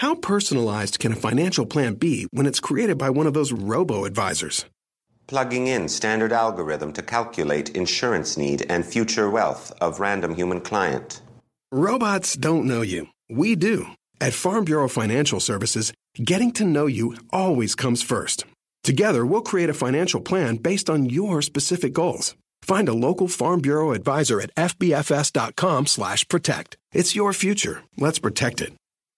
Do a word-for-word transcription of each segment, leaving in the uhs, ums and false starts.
How personalized can a financial plan be when it's created by one of those robo-advisors? Plugging in standard algorithm to calculate insurance need and future wealth of random human client. Robots don't know you. We do. At Farm Bureau Financial Services, getting to know you always comes first. Together, we'll create a financial plan based on your specific goals. Find a local Farm Bureau advisor at fbfs.com slash protect. It's your future. Let's protect it.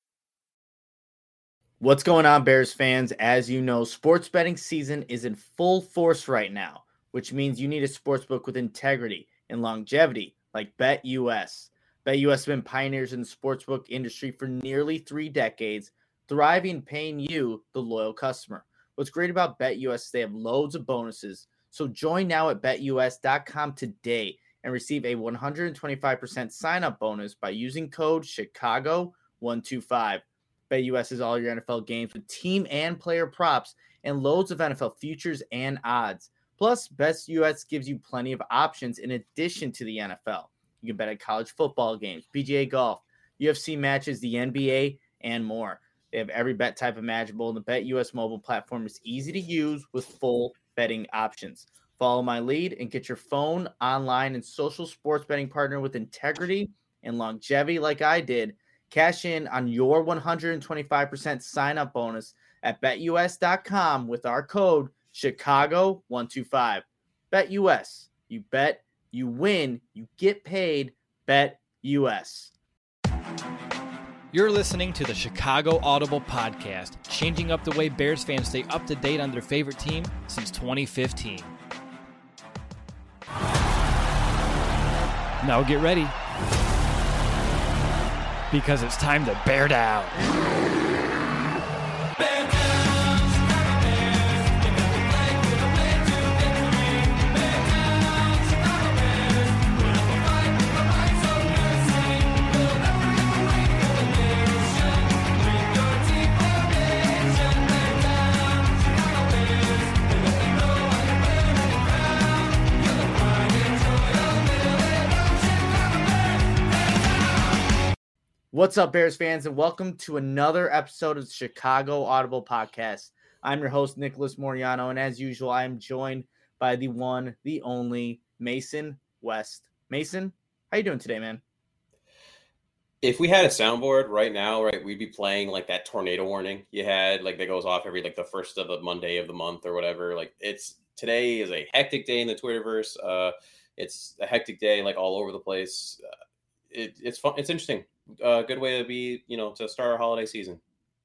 What's going on, Bears fans? As you know, sports betting season is in full force right now, which means you need a sportsbook with integrity and longevity like BetUS. BetUS has been pioneers in the sportsbook industry for nearly three decades, thriving and paying you, the loyal customer. What's great about BetUS is they have loads of bonuses, so join now at bet U S dot com today and receive a one hundred twenty-five percent sign-up bonus by using code Chicago one two five. BetUS is all your N F L games with team and player props and loads of N F L futures and odds. Plus, BetUS gives you plenty of options in addition to the N F L. You can bet at college football games, P G A golf, U F C matches, the N B A, and more. They have every bet type imaginable, and the BetUS mobile platform is easy to use with full betting options. Follow my lead and get your phone, online, and social sports betting partner with integrity and longevity like I did. Cash in on your one hundred twenty-five percent sign-up bonus at bet U S dot com with our code Chicago one two five. BetUS. You bet, you win, you get paid. BetUS. You're listening to the Chicago Audible Podcast, changing up the way Bears fans stay up to date on their favorite team since twenty fifteen. Now get ready, because it's time to bear down. What's up, Bears fans, and welcome to another episode of the Chicago Audible Podcast. I'm your host, Nicholas Moriano, and as usual, I am joined by the one, the only, Mason West. Mason, how you doing today, man? If we had a soundboard right now, right, we'd be playing like that tornado warning you had, like that goes off every like the first of the Monday of the month or whatever. Like it's today is a hectic day in the Twitterverse. Uh, it's a hectic day, like all over the place. Uh, it, it's fun. It's interesting. A uh, good way to be, you know, to start our holiday season.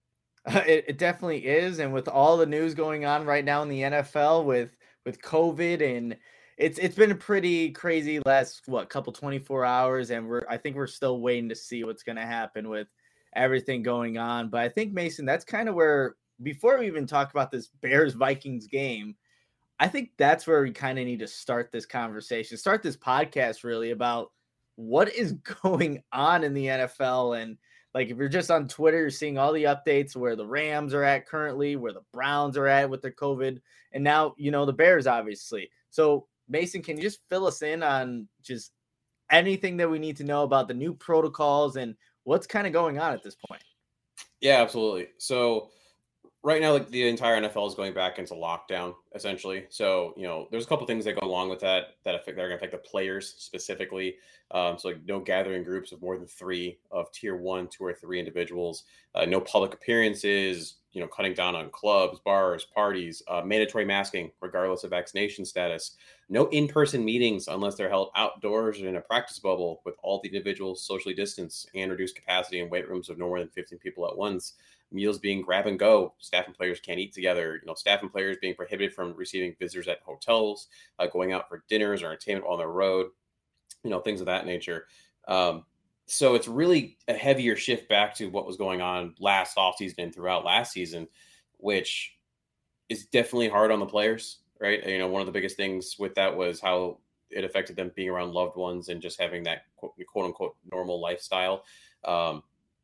Uh, it, it definitely is, and with all the news going on right now in the N F L with with COVID, and it's it's been a pretty crazy last what couple twenty-four hours, and we're I think we're still waiting to see what's going to happen with everything going on. But I think, Mason, that's kind of where, before we even talk about this Bears Vikings game, I think that's where we kind of need to start this conversation, start this podcast really about what is going on in the N F L. And like, if you're just on Twitter, you're seeing all the updates where the Rams are at currently, where the Browns are at with their COVID, and now, you know, the Bears, obviously. So Mason, can you just fill us in on just anything that we need to know about the new protocols and what's kind of going on at this point? Yeah, absolutely. So right now, like the entire N F L is going back into lockdown, essentially. So, you know, there's a couple things that go along with that that affect that are going to affect the players specifically. Um, so, like, no gathering groups of more than three of tier one, two, or three individuals. Uh, no public appearances. You know, cutting down on clubs, bars, parties. Uh, mandatory masking, regardless of vaccination status. No in-person meetings unless they're held outdoors or in a practice bubble with all the individuals socially distanced, and reduced capacity in weight rooms of no more than fifteen people at once. Meals being grab and go. Staff and players can't eat together. You know, staff and players being prohibited from receiving visitors at hotels, uh, going out for dinners or entertainment while on the road, you know, things of that nature. Um, so it's really a heavier shift back to what was going on last offseason and throughout last season, which is definitely hard on the players, right? You know, one of the biggest things with that was how it affected them being around loved ones and just having that quote, quote unquote normal lifestyle. Um,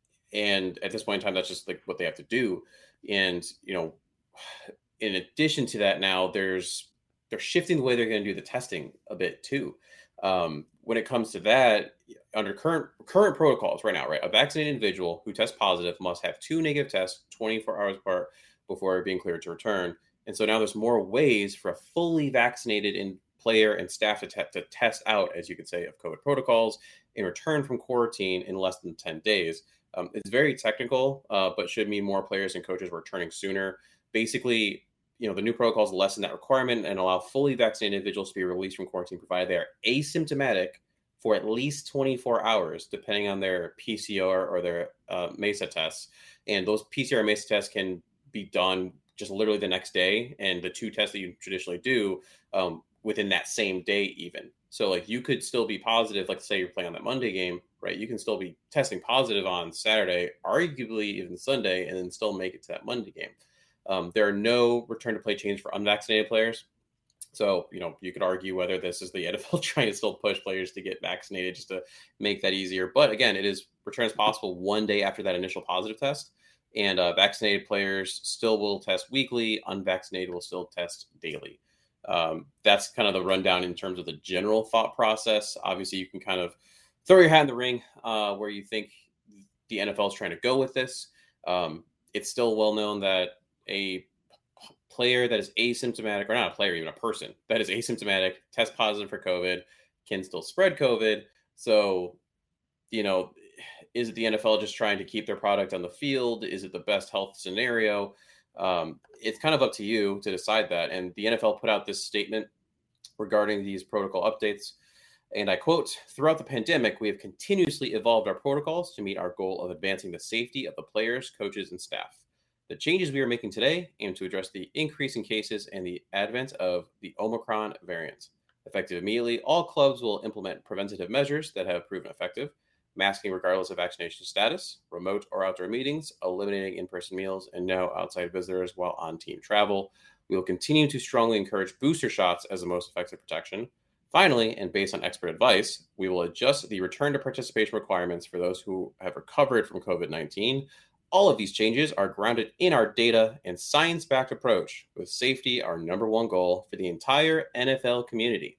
And at this point in time, that's just like what they have to do. And, you know, in addition to that, now there's, they're shifting the way they're going to do the testing a bit too. Um, when it comes to that, under current current protocols right now, right, a vaccinated individual who tests positive must have two negative tests twenty-four hours apart before being cleared to return. And so now there's more ways for a fully vaccinated in player and staff to, te- to test out, as you could say, of COVID protocols and return from quarantine in less than ten days. Um, it's very technical, uh, but should mean more players and coaches returning sooner. Basically, you know, the new protocols lessen that requirement and allow fully vaccinated individuals to be released from quarantine, provided they are asymptomatic for at least twenty-four hours, depending on their P C R or their uh, MESA tests. And those P C R and MESA tests can be done just literally the next day. And the two tests that you traditionally do um, within that same day even. So like you could still be positive, like say you're playing on that Monday game, right? You can still be testing positive on Saturday, arguably even Sunday, and then still make it to that Monday game. Um, there are no return to play changes for unvaccinated players. So, you know, you could argue whether this is the N F L trying to still push players to get vaccinated just to make that easier. But again, it is returns possible one day after that initial positive test. And uh, vaccinated players still will test weekly. Unvaccinated will still test daily. Um, that's kind of the rundown in terms of the general thought process. Obviously, you can kind of throw your hat in the ring uh, where you think the N F L is trying to go with this. Um, it's still well known that a player that is asymptomatic, or not a player, even a person that is asymptomatic, test positive for COVID, can still spread COVID. So, you know, is it the N F L just trying to keep their product on the field? Is it the best health scenario? Um, it's kind of up to you to decide that. And the N F L put out this statement regarding these protocol updates. And I quote, "Throughout the pandemic, we have continuously evolved our protocols to meet our goal of advancing the safety of the players, coaches, and staff. The changes we are making today aim to address the increase in cases and the advent of the Omicron variant. Effective immediately, all clubs will implement preventative measures that have proven effective. Masking regardless of vaccination status, remote or outdoor meetings, eliminating in-person meals, and no outside visitors while on team travel. We will continue to strongly encourage booster shots as the most effective protection. Finally, and based on expert advice, we will adjust the return to participation requirements for those who have recovered from COVID nineteen. All of these changes are grounded in our data and science-backed approach, with safety our number one goal for the entire N F L community."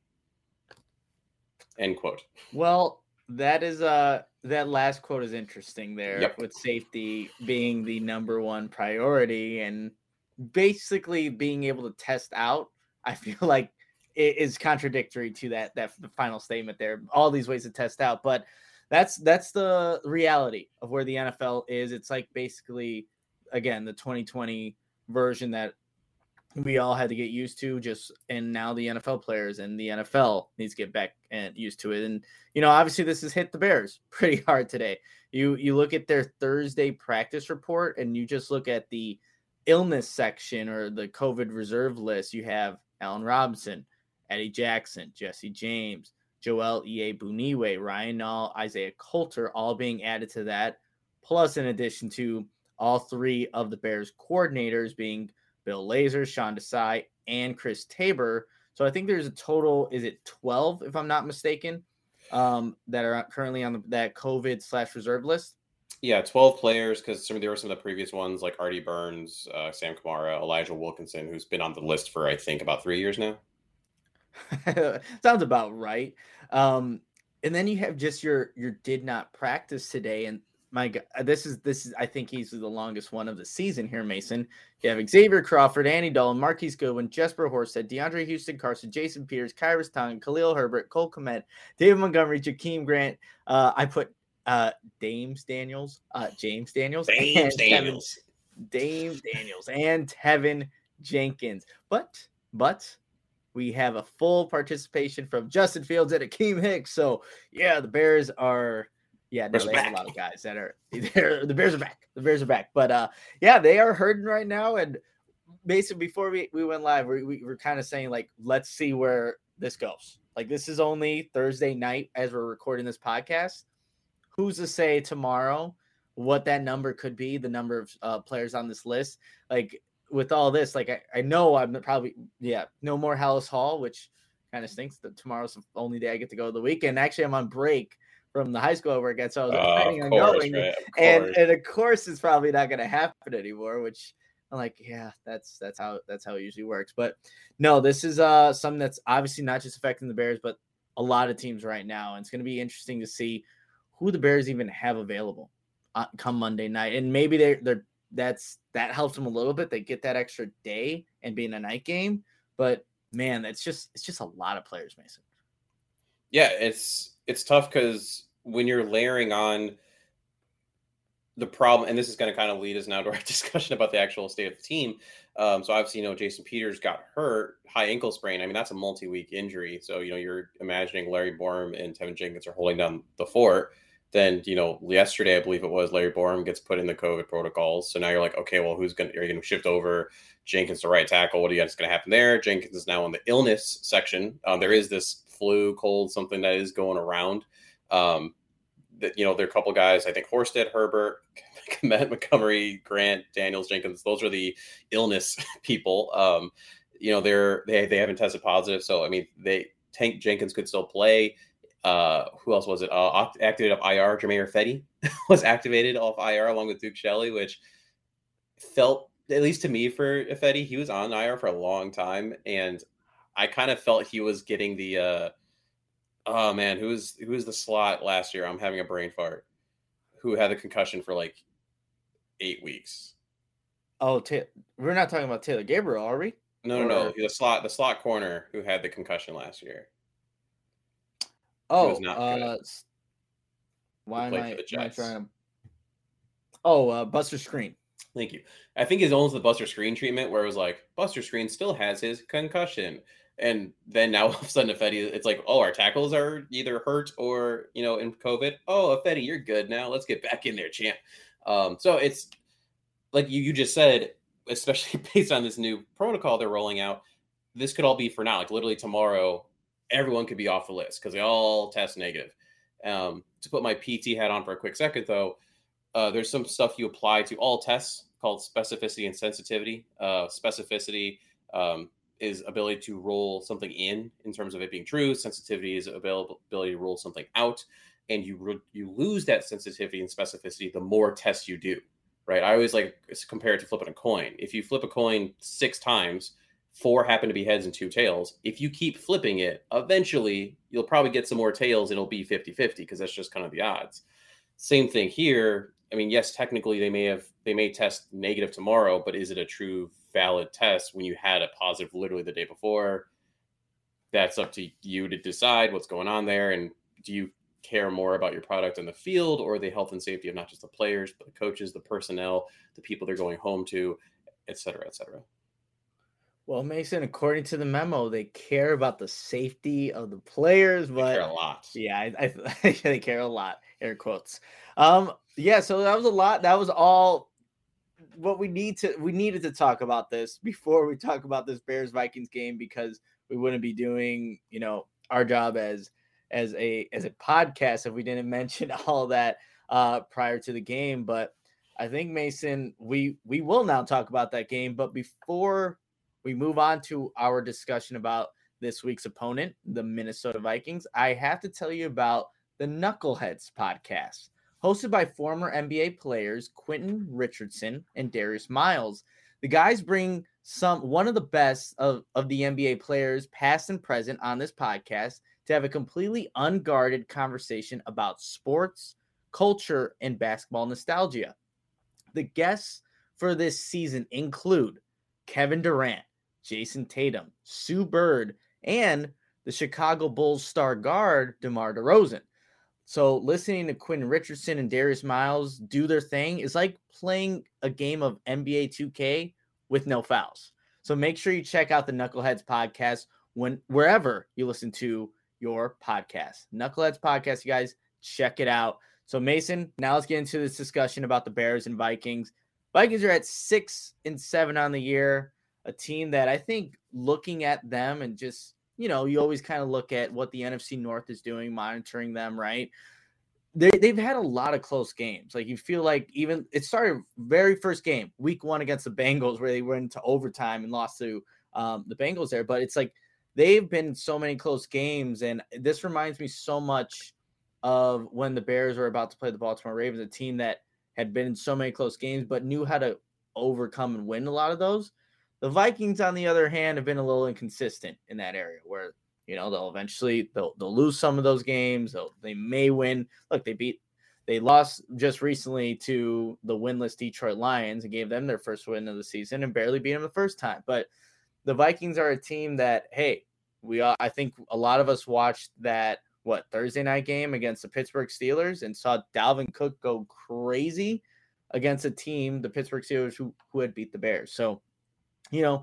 End quote. Well, that is uh that last quote is interesting there, Yep. with safety being the number one priority and basically being able to test out. I feel like it is contradictory to that that the final statement there. All these ways to test out, but that's that's the reality of where the N F L is. It's like basically, again, the twenty twenty version that we all had to get used to, just and now the N F L players and the N F L needs to get back and used to it. And you know, obviously this has hit the Bears pretty hard today. You you look at their Thursday practice report and you just look at the illness section or the COVID reserve list. You have Allen Robinson, Eddie Jackson, Jesse James, Joel Iyiegbuniwe, Ryan Nall, Isaiah Coulter, all being added to that. Plus, in addition to all three of the Bears coordinators being Bill Lazor, Sean Desai, and Chris Tabor. So I think there's a total, is it twelve, if I'm not mistaken, um, that are currently on the, that COVID slash reserve list? Yeah, twelve players, because some there were some of the previous ones like Artie Burns, uh, Sam Kamara, Elijah Wilkinson, who's been on the list for, I think, about three years now. Sounds about right. Um, and then you have just your your did not practice today, and my God, this is this is I think he's the longest one of the season here, Mason. You have Xavier Crawford, Andy Dalton, Marquise Goodwin, Jesper Horsted, DeAndre Houston Carson, Jason Peters, Kyrus Tongue, Khalil Herbert, Cole Kmet, David Montgomery, Jakeem Grant. Uh, I put uh, Dames Daniels, uh, James Daniels, James Daniels, Tevin, Dame Daniels, and Tevin Jenkins. But but. We have a full participation from Justin Fields and Akeem Hicks. So, yeah, the Bears are – yeah, no, they have a lot of guys that are – the Bears are back. The Bears are back. But, uh, yeah, they are hurting right now. And basically before we, we went live, we, we were kind of saying, like, let's see where this goes. Like, this is only Thursday night as we're recording this podcast. Who's to say tomorrow what that number could be, the number of uh, players on this list? Like – with all this, like I, I know I'm probably yeah no more Hallis Hall, which kind of stinks that tomorrow's the only day I get to go to the weekend. Actually, I'm on break from the high school over again, so I was uh, planning on course, going, right? and and of course it's probably not going to happen anymore. Which I'm like, yeah, that's that's how that's how it usually works. But no, this is uh something that's obviously not just affecting the Bears, but a lot of teams right now, and it's going to be interesting to see who the Bears even have available uh, come Monday night. And maybe they're, they're, that's, that helps them a little bit. They get that extra day and being a night game, but man, that's just, it's just a lot of players, Mason. Yeah. It's, it's tough because when you're layering on the problem, and this is going to kind of lead us now to our discussion about the actual state of the team. Um, so obviously, you know, Jason Peters got hurt, high ankle sprain. I mean, that's a multi-week injury. So, you know, you're imagining Larry Borom and Tevin Jenkins are holding down the fort. Then, you know, yesterday, I believe it was, Larry Borom gets put in the COVID protocols. So now you're like, okay, well, who's going to, are you going to shift over Jenkins to right tackle? What do you guys going to happen there? Jenkins is now in the illness section. Um, there is this flu, cold, something that is going around. Um, that, you know, there are a couple guys, I think Horsted, Herbert, Matt Montgomery, Grant, Daniels, Jenkins, those are the illness people. Um, you know, they're, they, they haven't tested positive. So, I mean, they Tank Jenkins could still play. Uh, who else was it? Uh, activated off I R. Jermaine Fetty was activated off I R along with Duke Shelley, which felt, at least to me for Fetty, he was on I R for a long time. And I kind of felt he was getting the, uh, oh man, who was, who was the slot last year? I'm having a brain fart. Who had the concussion for like eight weeks. Oh, ta- we're not talking about Taylor Gabriel, are we? No, no, no. The slot, the slot corner who had the concussion last year. Oh, uh, why am I, am I trying to? Oh, uh, Buster Screen. Thank you. I think it's almost the Buster Screen treatment where it was like Buster Screen still has his concussion, and then now all of a sudden Ifedi, it's like, oh, our tackles are either hurt or, you know, in COVID. Oh, Ifedi, you're good now. Let's get back in there, champ. Um, so it's like you you just said, especially based on this new protocol they're rolling out, this could all be for now. Like literally tomorrow, everyone could be off the list because they all test negative. Um, to put my P T hat on for a quick second, though, uh, there's some stuff you apply to all tests called specificity and sensitivity. Uh, specificity um, is ability to roll something in in terms of it being true. Sensitivity is available, ability to roll something out. And you re- you lose that sensitivity and specificity the more tests you do, right? I always like compare it to flipping a coin. If you flip a coin six times, four happen to be heads and two tails. If you keep flipping it, eventually you'll probably get some more tails and it'll be fifty-fifty because that's just kind of the odds. Same thing here. I mean, yes, technically they may have, they may test negative tomorrow, but is it a true valid test when you had a positive literally the day before? That's up to you to decide what's going on there. And do you care more about your product in the field or the health and safety of not just the players, but the coaches, the personnel, the people they're going home to, et cetera, et cetera? Well, Mason, according to the memo, they care about the safety of the players, but they care a lot. Yeah, I, I they care a lot. Air quotes. Um, yeah, so that was a lot. That was all what we need to. We needed to talk about this before we talk about this Bears Vikings game because we wouldn't be doing, you know, our job as as a as a podcast if we didn't mention all that uh, prior to the game. But I think, Mason, we we will now talk about that game. But before we move on to our discussion about this week's opponent, the Minnesota Vikings, I have to tell you about the Knuckleheads podcast, hosted by former N B A players Quentin Richardson and Darius Miles. The guys bring some one of the best of, of the N B A players, past and present, on this podcast to have a completely unguarded conversation about sports, culture, and basketball nostalgia. The guests for this season include Kevin Durant, Jason Tatum, Sue Bird, and the Chicago Bulls star guard DeMar DeRozan. So listening to Quentin Richardson and Darius Miles do their thing is like playing a game of N B A two K with no fouls. So make sure you check out the Knuckleheads podcast when wherever you listen to your podcast. Knuckleheads podcast, you guys, check it out. So Mason, now let's get into this discussion about the Bears and Vikings. Vikings are at six and seven on the year, a team that I think looking at them and just, you know, you always kind of look at what the N F C North is doing, monitoring them, right? They, they've had a lot of close games. Like you feel like even it started very first game, week one against the Bengals, where they went into overtime and lost to um, the Bengals there. But it's like they've been so many close games. And this reminds me so much of when the Bears were about to play the Baltimore Ravens, a team that had been in so many close games, but knew how to overcome and win a lot of those. The Vikings, on the other hand, have been a little inconsistent in that area where, you know, they'll eventually, they'll, they'll lose some of those games. They'll, they may win. Look, they beat They lost just recently to the winless Detroit Lions and gave them their first win of the season and barely beat them the first time. But the Vikings are a team that, hey, we all, I think a lot of us watched that, what, Thursday night game against the Pittsburgh Steelers and saw Dalvin Cook go crazy against a team, the Pittsburgh Steelers, who, who had beat the Bears. So, you know,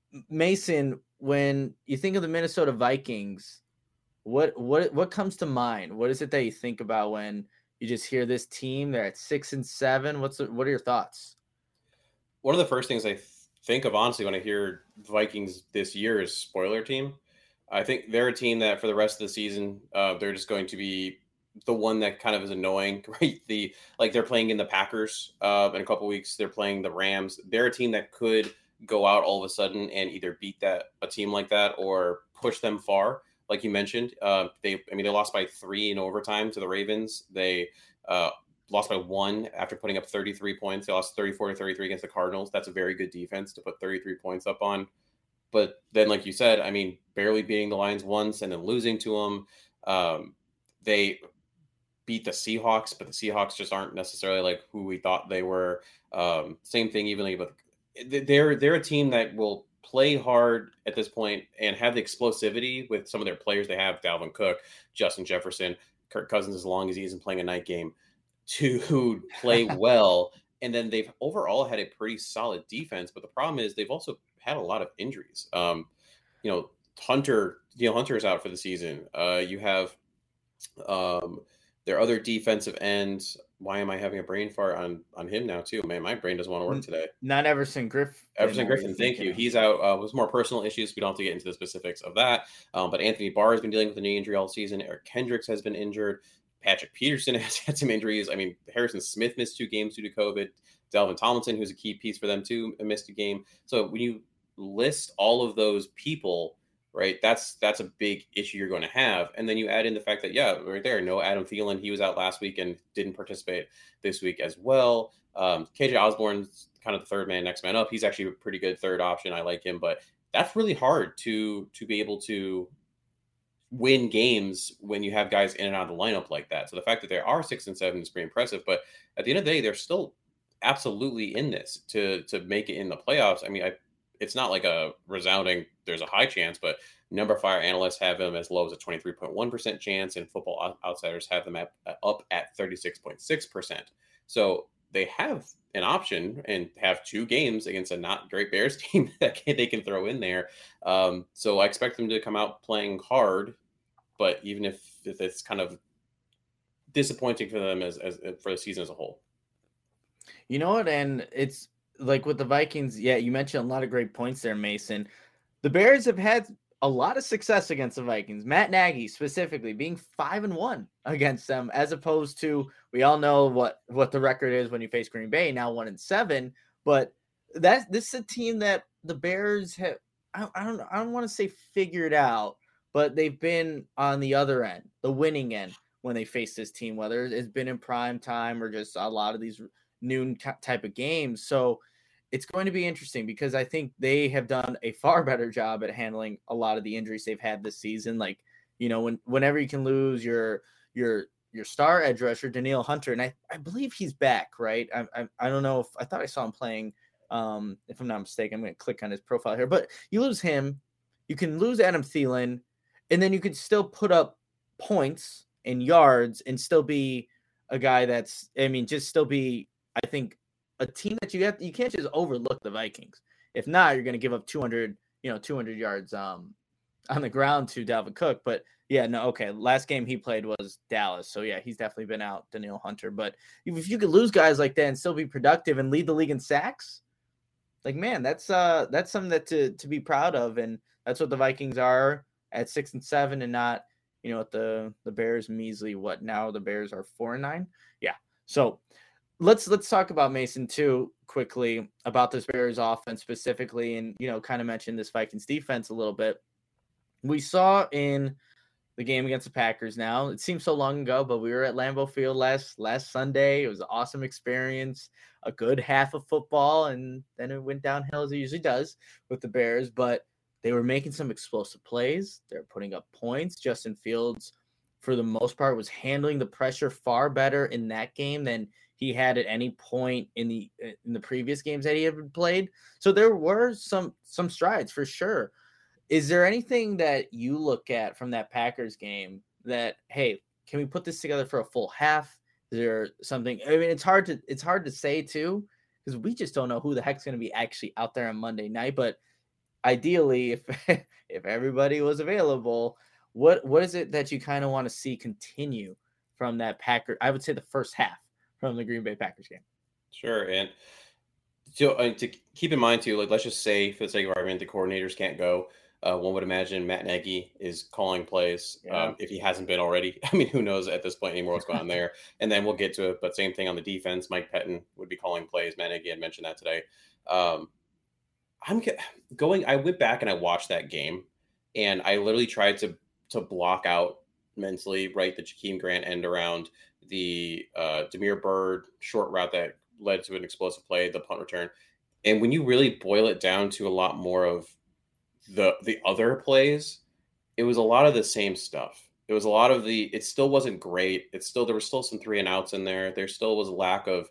Mason, when you think of the Minnesota Vikings, what what what comes to mind? What is it that you think about when you just hear this team? They're at six and seven. What's the, what are your thoughts? One of the first things I th- think of, honestly, when I hear Vikings this year is spoiler team. I think they're a team that for the rest of the season, uh, they're just going to be the one that kind of is annoying, right? The like they're playing in the Packers uh, in a couple weeks. They're playing the Rams. They're a team that could go out all of a sudden and either beat that a team like that or push them far. Like you mentioned, uh, they I mean they lost by three in overtime to the Ravens. They uh, lost by one after putting up thirty-three points. They lost thirty-four to thirty-three against the Cardinals. That's a very good defense to put thirty-three points up on. But then, like you said, I mean, barely beating the Lions once and then losing to them. Um, they beat the Seahawks, but the Seahawks just aren't necessarily like who we thought they were. Um, same thing, even like, but they're they're a team that will play hard at this point and have the explosivity with some of their players. They have Dalvin Cook, Justin Jefferson, Kirk Cousins, as long as he isn't playing a night game, to play well. And then they've overall had a pretty solid defense. But the problem is they've also had a lot of injuries. Um, you know, Hunter, Danielle Hunter is out for the season. Uh, you have um, their other defensive ends. Why am I having a brain fart on, on him now too? Man, my brain doesn't want to work today. Not Everson Griffin. Everson Griffin, thank you. He's out uh, with more personal issues. We don't have to get into the specifics of that. Um, but Anthony Barr has been dealing with a knee injury all season. Eric Kendricks has been injured. Patrick Peterson has had some injuries. I mean, Harrison Smith missed two games due to COVID. Delvin Tomlinson, who's a key piece for them too, missed a game. So when you list all of those people, right, that's that's a big issue you're going to have. And then you add in the fact that, yeah, right there, no Adam Thielen. He was out last week and didn't participate this week as well. Um, K J Osborne's kind of the third man, next man up. He's actually a pretty good third option. I like him, but that's really hard to to be able to win games when you have guys in and out of the lineup like that. So the fact that they are six and seven is pretty impressive. But at the end of the day, they're still absolutely in this to to make it in the playoffs. I mean, I, it's not like a resounding there's a high chance, but Number Fire analysts have them as low as a twenty-three point one percent chance, and Football Outsiders have them at, up at thirty-six point six percent. So they have an option and have two games against a not great Bears team that can, they can throw in there. Um, so I expect them to come out playing hard, but even if, if it's kind of disappointing for them as, as for the season as a whole. You know what? And it's like with the Vikings, yeah, you mentioned a lot of great points there, Mason. The Bears have had a lot of success against the Vikings. Matt Nagy specifically being five and one against them, as opposed to, we all know what, what the record is when you face Green Bay, now one and seven. But that this is a team that the Bears have, I, I don't I don't want to say figured out, but they've been on the other end, the winning end, when they face this team, whether it's been in prime time or just a lot of these noon t- type of games. So it's going to be interesting because I think they have done a far better job at handling a lot of the injuries they've had this season. Like, you know, when whenever you can lose your your your star edge rusher, Danielle Hunter, and I, I believe he's back, right? I, I I don't know if I thought I saw him playing. Um, if I'm not mistaken, I'm going to click on his profile here. But you lose him, you can lose Adam Thielen, and then you could still put up points and yards and still be a guy that's, I mean, just still be, I think, a team that you have, you can't just overlook the Vikings. If not, you're going to give up two hundred, you know, two hundred yards um, on the ground to Dalvin Cook. But yeah, no, okay. Last game he played was Dallas. So yeah, he's definitely been out, Danielle Hunter. But if you could lose guys like that and still be productive and lead the league in sacks, like, man, that's uh, that's something that to, to be proud of. And that's what the Vikings are at six and seven and not, you know, at the, the Bears measly, what now the Bears are four and nine. Yeah. So Let's let's talk about Mason too quickly about this Bears offense specifically, and you know, kind of mention this Vikings defense a little bit. We saw in the game against the Packers. Now it seems so long ago, but we were at Lambeau Field last last Sunday. It was an awesome experience, a good half of football, and then it went downhill as it usually does with the Bears. But they were making some explosive plays. They're putting up points. Justin Fields for the most part, was handling the pressure far better in that game than he had at any point in the in the previous games that he had played. So there were some some strides for sure. Is there anything that you look at from that Packers game that, hey, can we put this together for a full half? Is there something? I mean, it's hard to it's hard to say too, because we just don't know who the heck's going to be actually out there on Monday night. But ideally, if if everybody was available, what what is it that you kind of want to see continue from that Packer? I would say the first half from the Green Bay Packers game. Sure, and so uh, to keep in mind too, like let's just say for the sake of argument, the coordinators can't go. Uh, one would imagine Matt Nagy is calling plays yeah. um, if he hasn't been already. I mean, who knows at this point anymore what's going on there? And then we'll get to it. But same thing on the defense. Mike Pettin would be calling plays. Matt Nagy had mentioned that today. Um, I'm going. I went back and I watched that game, and I literally tried to to block out mentally, right, the Jakeem Grant end around, the uh, Damiere Byrd short route that led to an explosive play, the punt return. And when you really boil it down to a lot more of the the other plays, it was a lot of the same stuff. It was a lot of the, it still wasn't great. It's still, there was still some three and outs in there. There still was a lack of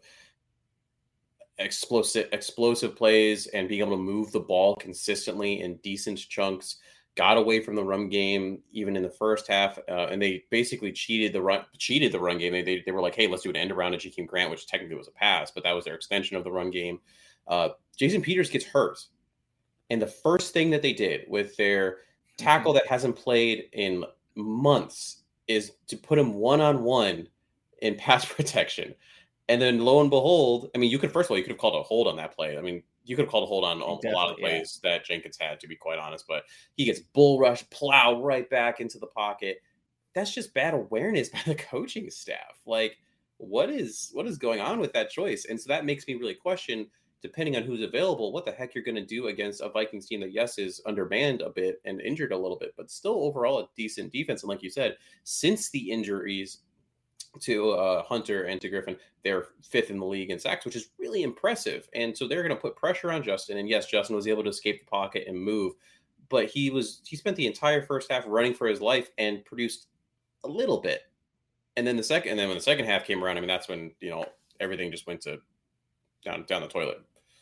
explosive, explosive plays and being able to move the ball consistently in decent chunks. Got away from the run game even in the first half, uh, and they basically cheated the run, cheated the run game. They, they they were like, hey, let's do an end around to Jakeem Grant, which technically was a pass, but that was their extension of the run game. Uh, Jason Peters gets hurt. And the first thing that they did with their tackle that hasn't played in months is to put him one-on-one in pass protection. And then lo and behold, I mean, you could, first of all, you could have called a hold on that play. I mean, you could have called a hold on a lot of the plays yeah. that Jenkins had, to be quite honest. But he gets bull rush, plow right back into the pocket. That's just bad awareness by the coaching staff. Like, what is what is going on with that choice? And so that makes me really question, depending on who's available, what the heck you're going to do against a Vikings team that, yes, is undermanned a bit and injured a little bit, but still overall a decent defense. And like you said, since the injuries to uh, Hunter and to Griffin, they're fifth in the league in sacks, which is really impressive. And so they're going to put pressure on Justin. And yes, Justin was able to escape the pocket and move, but he was he spent the entire first half running for his life and produced a little bit. And then the second, and then when the second half came around, I mean, that's when, you know, everything just went to down down the toilet.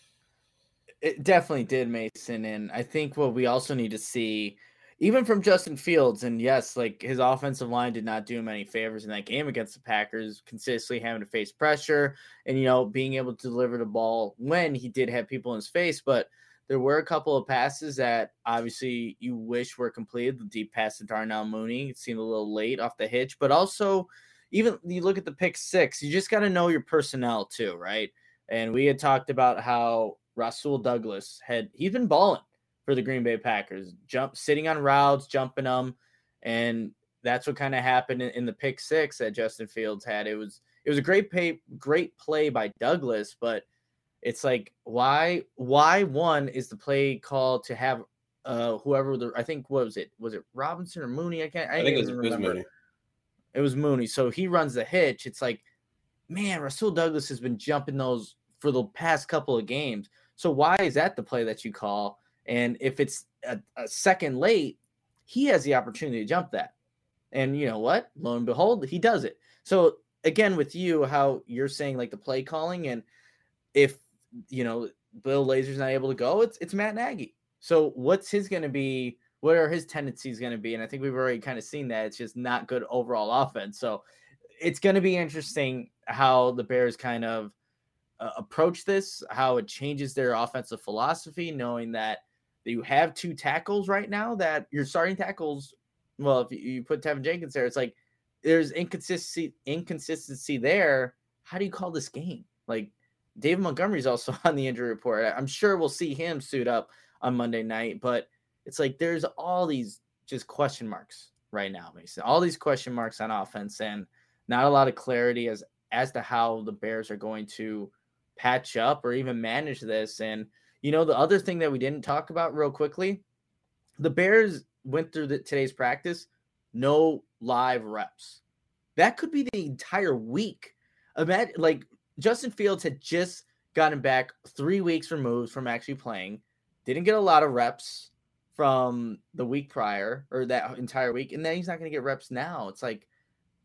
It definitely did, Mason. And I think what we also need to see, even from Justin Fields, and yes, like his offensive line did not do him any favors in that game against the Packers, consistently having to face pressure and, you know, being able to deliver the ball when he did have people in his face. But there were a couple of passes that obviously you wish were completed. The deep pass to Darnell Mooney, it seemed a little late off the hitch, but also even you look at the pick six, you just got to know your personnel too, right? And we had talked about how Rasul Douglas had, he's been balling for the Green Bay Packers, jump, sitting on routes, jumping them. And that's what kind of happened in, in the pick six that Justin Fields had. It was, it was a great pay, great play by Douglas, but it's like, why, why one is the play called to have uh, whoever the, I think, what was it? Was it Robinson or Mooney? I can't, I, I think it was, remember. it was Mooney. It was Mooney. So he runs the hitch. It's like, man, Rasul Douglas has been jumping those for the past couple of games. So why is that the play that you call? And if it's a, a second late, he has the opportunity to jump that. And you know what? Lo and behold, he does it. So again, with you, how you're saying like the play calling, and if, you know, Bill Lazor's not able to go, it's it's Matt Nagy. So what's his going to be? What are his tendencies going to be? And I think we've already kind of seen that it's just not good overall offense. So it's going to be interesting how the Bears kind of uh, approach this, how it changes their offensive philosophy, knowing that you have two tackles right now that your starting tackles. Well, if you put Tevin Jenkins there, it's like there's inconsistency, inconsistency there. How do you call this game? Like David Montgomery's also on the injury report. I'm sure we'll see him suit up on Monday night, but it's like there's all these just question marks right now, Mason. All these question marks on offense, and not a lot of clarity as as to how the Bears are going to patch up or even manage this. And you know, the other thing that we didn't talk about real quickly, the Bears went through the, today's practice, no live reps. That could be the entire week. Imagine, like Justin Fields had just gotten back three weeks removed from actually playing, didn't get a lot of reps from the week prior or that entire week, and then he's not going to get reps now. It's like,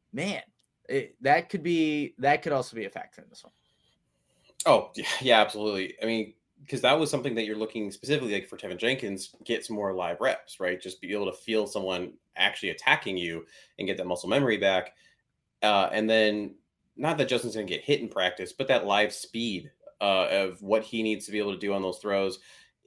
man, it, that could be that could also be a factor in this one. Oh, yeah, yeah, absolutely. I mean, because that was something that you're looking specifically like for Tevin Jenkins, get some more live reps, right? Just be able to feel someone actually attacking you and get that muscle memory back. Uh, and then not that Justin's going to get hit in practice, but that live speed uh, of what he needs to be able to do on those throws.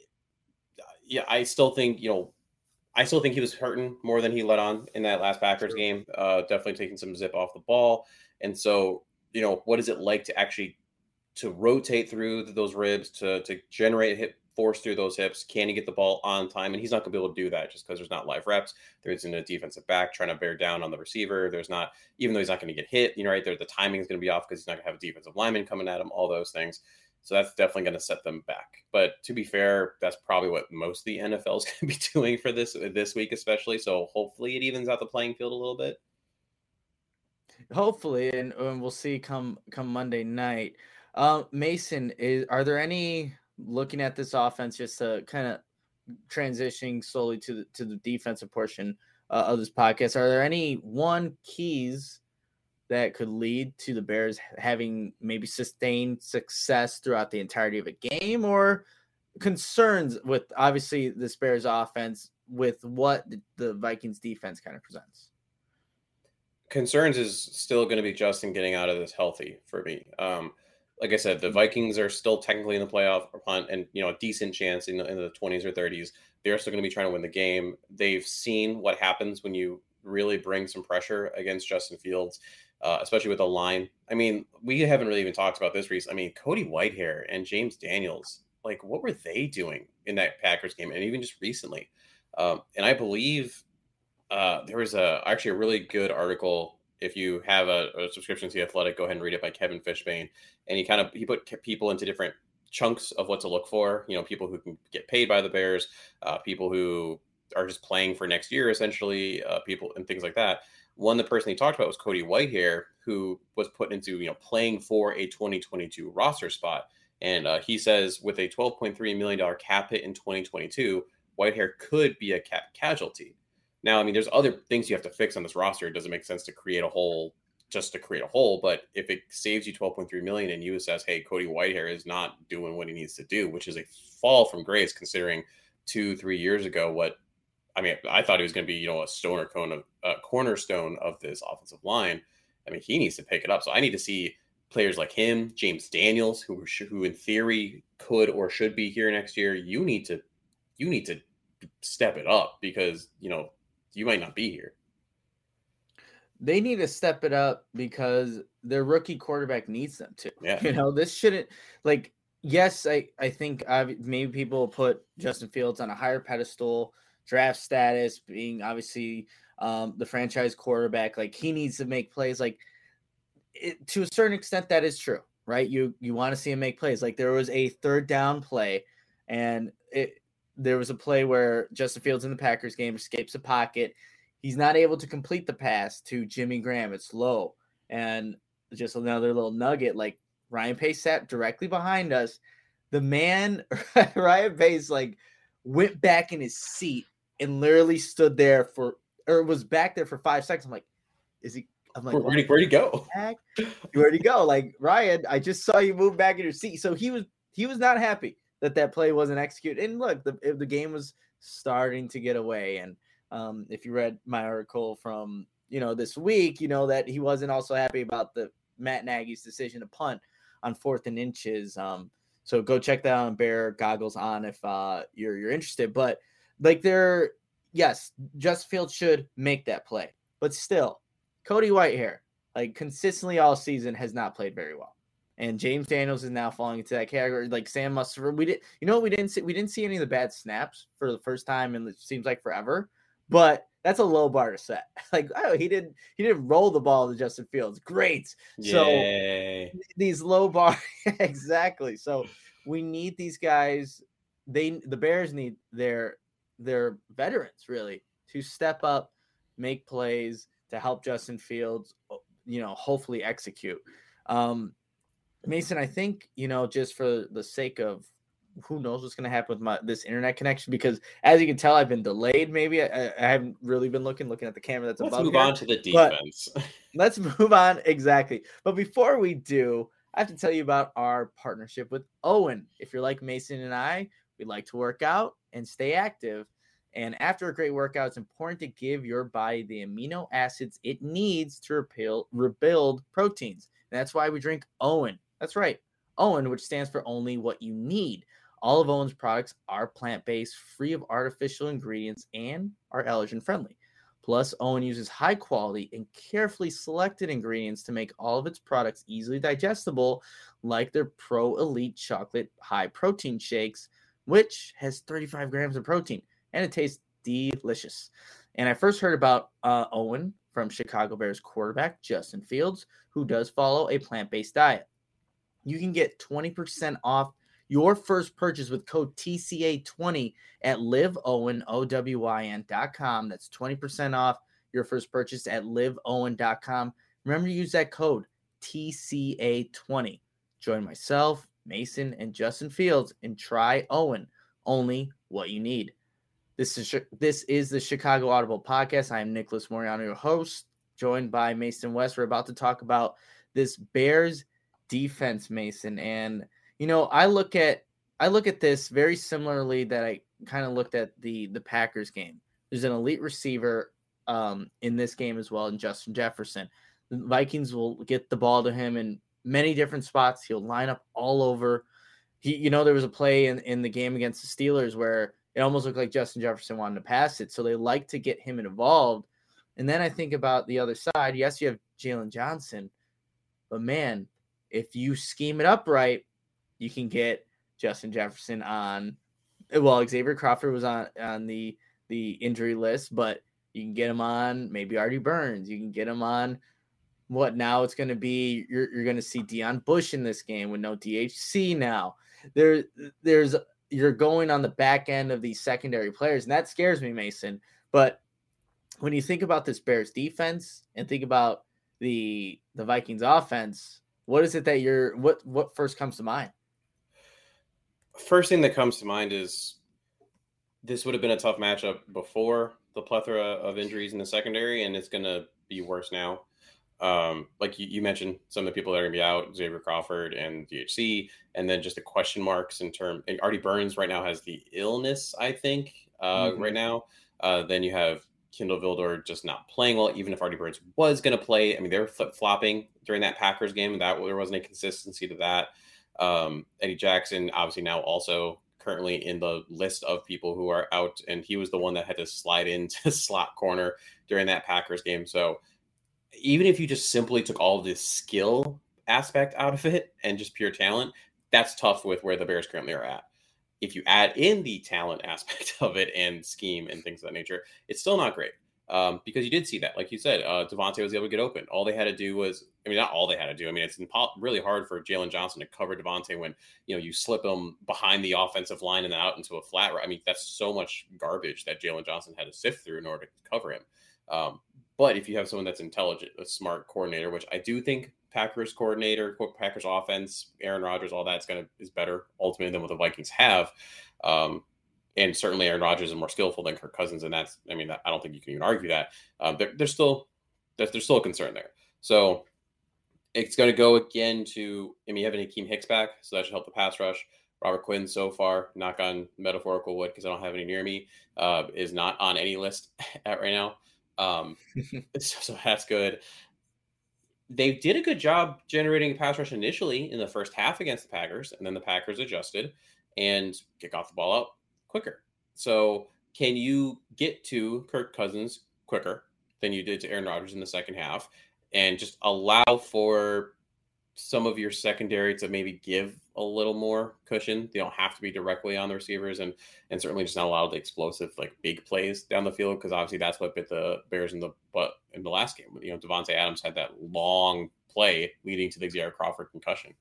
Yeah, I still think, you know, I still think he was hurting more than he let on in that last Packers sure. game. Uh, definitely taking some zip off the ball. And so, you know, what is it like to actually to rotate through those ribs, to to generate hip force through those hips? Can he get the ball on time? And he's not going to be able to do that just because there's not live reps. There isn't a defensive back trying to bear down on the receiver. There's not, even though he's not going to get hit, you know, right there, the timing is going to be off because he's not going to have a defensive lineman coming at him, all those things. So that's definitely going to set them back. But to be fair, that's probably what most of the N F L is going to be doing for this this week, especially. So hopefully it evens out the playing field a little bit. Hopefully, and, and we'll see come come Monday night. Uh, Mason, is are there any, looking at this offense, just to kind of transitioning slowly to the, to the defensive portion uh, of this podcast, are there any one keys that could lead to the Bears having maybe sustained success throughout the entirety of a game, or concerns with obviously this Bears offense with what the Vikings defense kind of presents? Concerns is still going to be Justin getting out of this healthy for me. Um, like I said, the Vikings are still technically in the playoff hunt and, you know, a decent chance in the, in the twenties or thirties. They're still going to be trying to win the game. They've seen what happens when you really bring some pressure against Justin Fields, uh, especially with the line. I mean, we haven't really even talked about this recently. I mean, Cody Whitehair and James Daniels, like, what were they doing in that Packers game? And even just recently. Um, and I believe uh, there was a actually a really good article. If you have a, a subscription to The Athletic, go ahead and read it, by Kevin Fishbane. And he kind of, he put people into different chunks of what to look for. You know, people who can get paid by the Bears, uh, people who are just playing for next year, essentially, uh, people and things like that. One, the person he talked about was Cody Whitehair, who was put into, you know, playing for a twenty twenty-two roster spot. And uh, he says with a twelve point three million dollars cap hit in twenty twenty-two, Whitehair could be a cap casualty. Now, I mean, there's other things you have to fix on this roster. It doesn't make sense to create a hole just to create a hole. But if it saves you twelve point three million dollars and you assess, hey, Cody Whitehair is not doing what he needs to do, which is a fall from grace considering two, three years ago, what, I mean, I thought he was going to be, you know, a stoner cone of a cornerstone of this offensive line. I mean, he needs to pick it up. So I need to see players like him, James Daniels, who, who in theory could or should be here next year. You need to, you need to step it up because, you know, you might not be here. They need to step it up because their rookie quarterback needs them to. Yeah. You know, this shouldn't, like, yes, I, I think I've, maybe people put Justin Fields on a higher pedestal, draft status, being obviously um, the franchise quarterback. Like, he needs to make plays. Like, it, to a certain extent, that is true, right? You you want to see him make plays. Like, there was a third down play, and it there was a play where Justin Fields in the Packers game escapes a pocket. He's not able to complete the pass to Jimmy Graham. It's low. And just another little nugget, like, Ryan Pace sat directly behind us. The man, Ryan Pace, like, went back in his seat and literally stood there for, or was back there for five seconds. I'm like, is he, I'm like, where'd he, where'd he go? Where'd he go? Like, Ryan, I just saw you move back in your seat. So he was, he was not happy that that play wasn't executed. And look, the the game was starting to get away. And um, if you read my article from, you know, this week, you know that he wasn't also happy about the Matt Nagy's decision to punt on fourth and inches. Um, so go check that out on Bear Goggles on if uh, you're you're interested. But like, they're, yes, Justin Fields should make that play, but still, Cody Whitehair, like, consistently all season has not played very well. And James Daniels is now falling into that category. Like, Sam Mustipher, we did, you know what we didn't see? We didn't see any of the bad snaps for the first time in, it seems like, forever. But that's a low bar to set. Like, oh, he didn't he didn't roll the ball to Justin Fields. Great. Yay. So these low bar, exactly. So we need these guys. They the Bears need their their veterans really to step up, make plays to help Justin Fields, you know, hopefully execute. Um, Mason, I think, you know, just for the sake of who knows what's going to happen with my this internet connection, because as you can tell, I've been delayed. Maybe I, I haven't really been looking looking at the camera that's Let's above move here. on to the defense. Let's move on. Exactly. But before we do, I have to tell you about our partnership with Owen. If you're like Mason and I, we like to work out and stay active. And after a great workout, it's important to give your body the amino acids it needs to repeal, rebuild proteins. And that's why we drink Owen. That's right. Owen, which stands for only what you need. All of Owen's products are plant-based, free of artificial ingredients, and are allergen-friendly. Plus, Owen uses high-quality and carefully selected ingredients to make all of its products easily digestible, like their Pro Elite Chocolate High-Protein Shakes, which has thirty-five grams of protein, and it tastes delicious. And I first heard about uh, Owen from Chicago Bears quarterback Justin Fields, who does follow a plant-based diet. You can get twenty percent off your first purchase with code T C A twenty at live owen dot com. That's twenty percent off your first purchase at live owen dot com. Remember to use that code T C A twenty. Join myself, Mason, and Justin Fields and try Owen, only what you need. This is this is the Chicago Audible Podcast. I am Nicholas Moriano, your host, joined by Mason West. We're about to talk about this Bears defense, Mason. And, you know, I look at I look at this very similarly that I kind of looked at the, the Packers game. There's an elite receiver um, in this game as well, in Justin Jefferson. The Vikings will get the ball to him in many different spots. He'll line up all over. He, you know, there was a play in, in the game against the Steelers where it almost looked like Justin Jefferson wanted to pass it. So they like to get him involved. And then I think about the other side. Yes, you have Jalen Johnson. But, man, if you scheme it up right, you can get Justin Jefferson on – well, Xavier Crawford was on, on the, the injury list, but you can get him on maybe Artie Burns. You can get him on what now it's going to be – you're you're going to see Deion Bush in this game with no D H C now. There, There's – you're going on the back end of these secondary players, and that scares me, Mason. But when you think about this Bears defense and think about the the Vikings offense, what is it that you're what what first comes to mind? First thing that comes to mind is this would have been a tough matchup before the plethora of injuries in the secondary, and it's going to be worse now. Um, like you, you mentioned, some of the people that are going to be out, Xavier Crawford and D H C, and then just the question marks in terms. Artie Burns right now has the illness, I think, uh, mm-hmm. right now. Uh, then you have Kindle Vildor just not playing well, even if Artie Burns was going to play. I mean, they were flip flopping during that Packers game, and that there wasn't a consistency to that. Um, Eddie Jackson, obviously now also currently in the list of people who are out, and he was the one that had to slide into slot corner during that Packers game. So even if you just simply took all this skill aspect out of it and just pure talent, that's tough with where the Bears currently are at. If you add in the talent aspect of it and scheme and things of that nature, it's still not great. Um, because you did see that, like you said, uh, Devontae was able to get open. All they had to do was, I mean, not all they had to do. I mean, it's impo- really hard for Jalen Johnson to cover Devontae when, you know, you slip him behind the offensive line and then out into a flat. I mean, that's so much garbage that Jalen Johnson had to sift through in order to cover him. Um, But if you have someone that's intelligent, a smart coordinator, which I do think Packers coordinator, Packers offense, Aaron Rodgers, all that's going to is better ultimately than what the Vikings have. Um, and certainly Aaron Rodgers is more skillful than Kirk Cousins. And that's, I mean, I don't think you can even argue that. Um, there, there's still, there's, there's still a concern there. So it's going to go again to, I mean, you have an Akeem Hicks back, so that should help the pass rush. Robert Quinn so far, knock on metaphorical wood because I don't have any near me, uh, is not on any list at right now. Um, so, so that's good. They did a good job generating a pass rush initially in the first half against the Packers, and then the Packers adjusted and kick off the ball out quicker. So can you get to Kirk Cousins quicker than you did to Aaron Rodgers in the second half and just allow for some of your secondary to maybe give a little more cushion? They don't have to be directly on the receivers, and and certainly just not allow the explosive, like big plays down the field, because obviously that's what bit the Bears in the butt in the last game. You know, Devontae Adams had that long play leading to the Xavier Crawford concussion.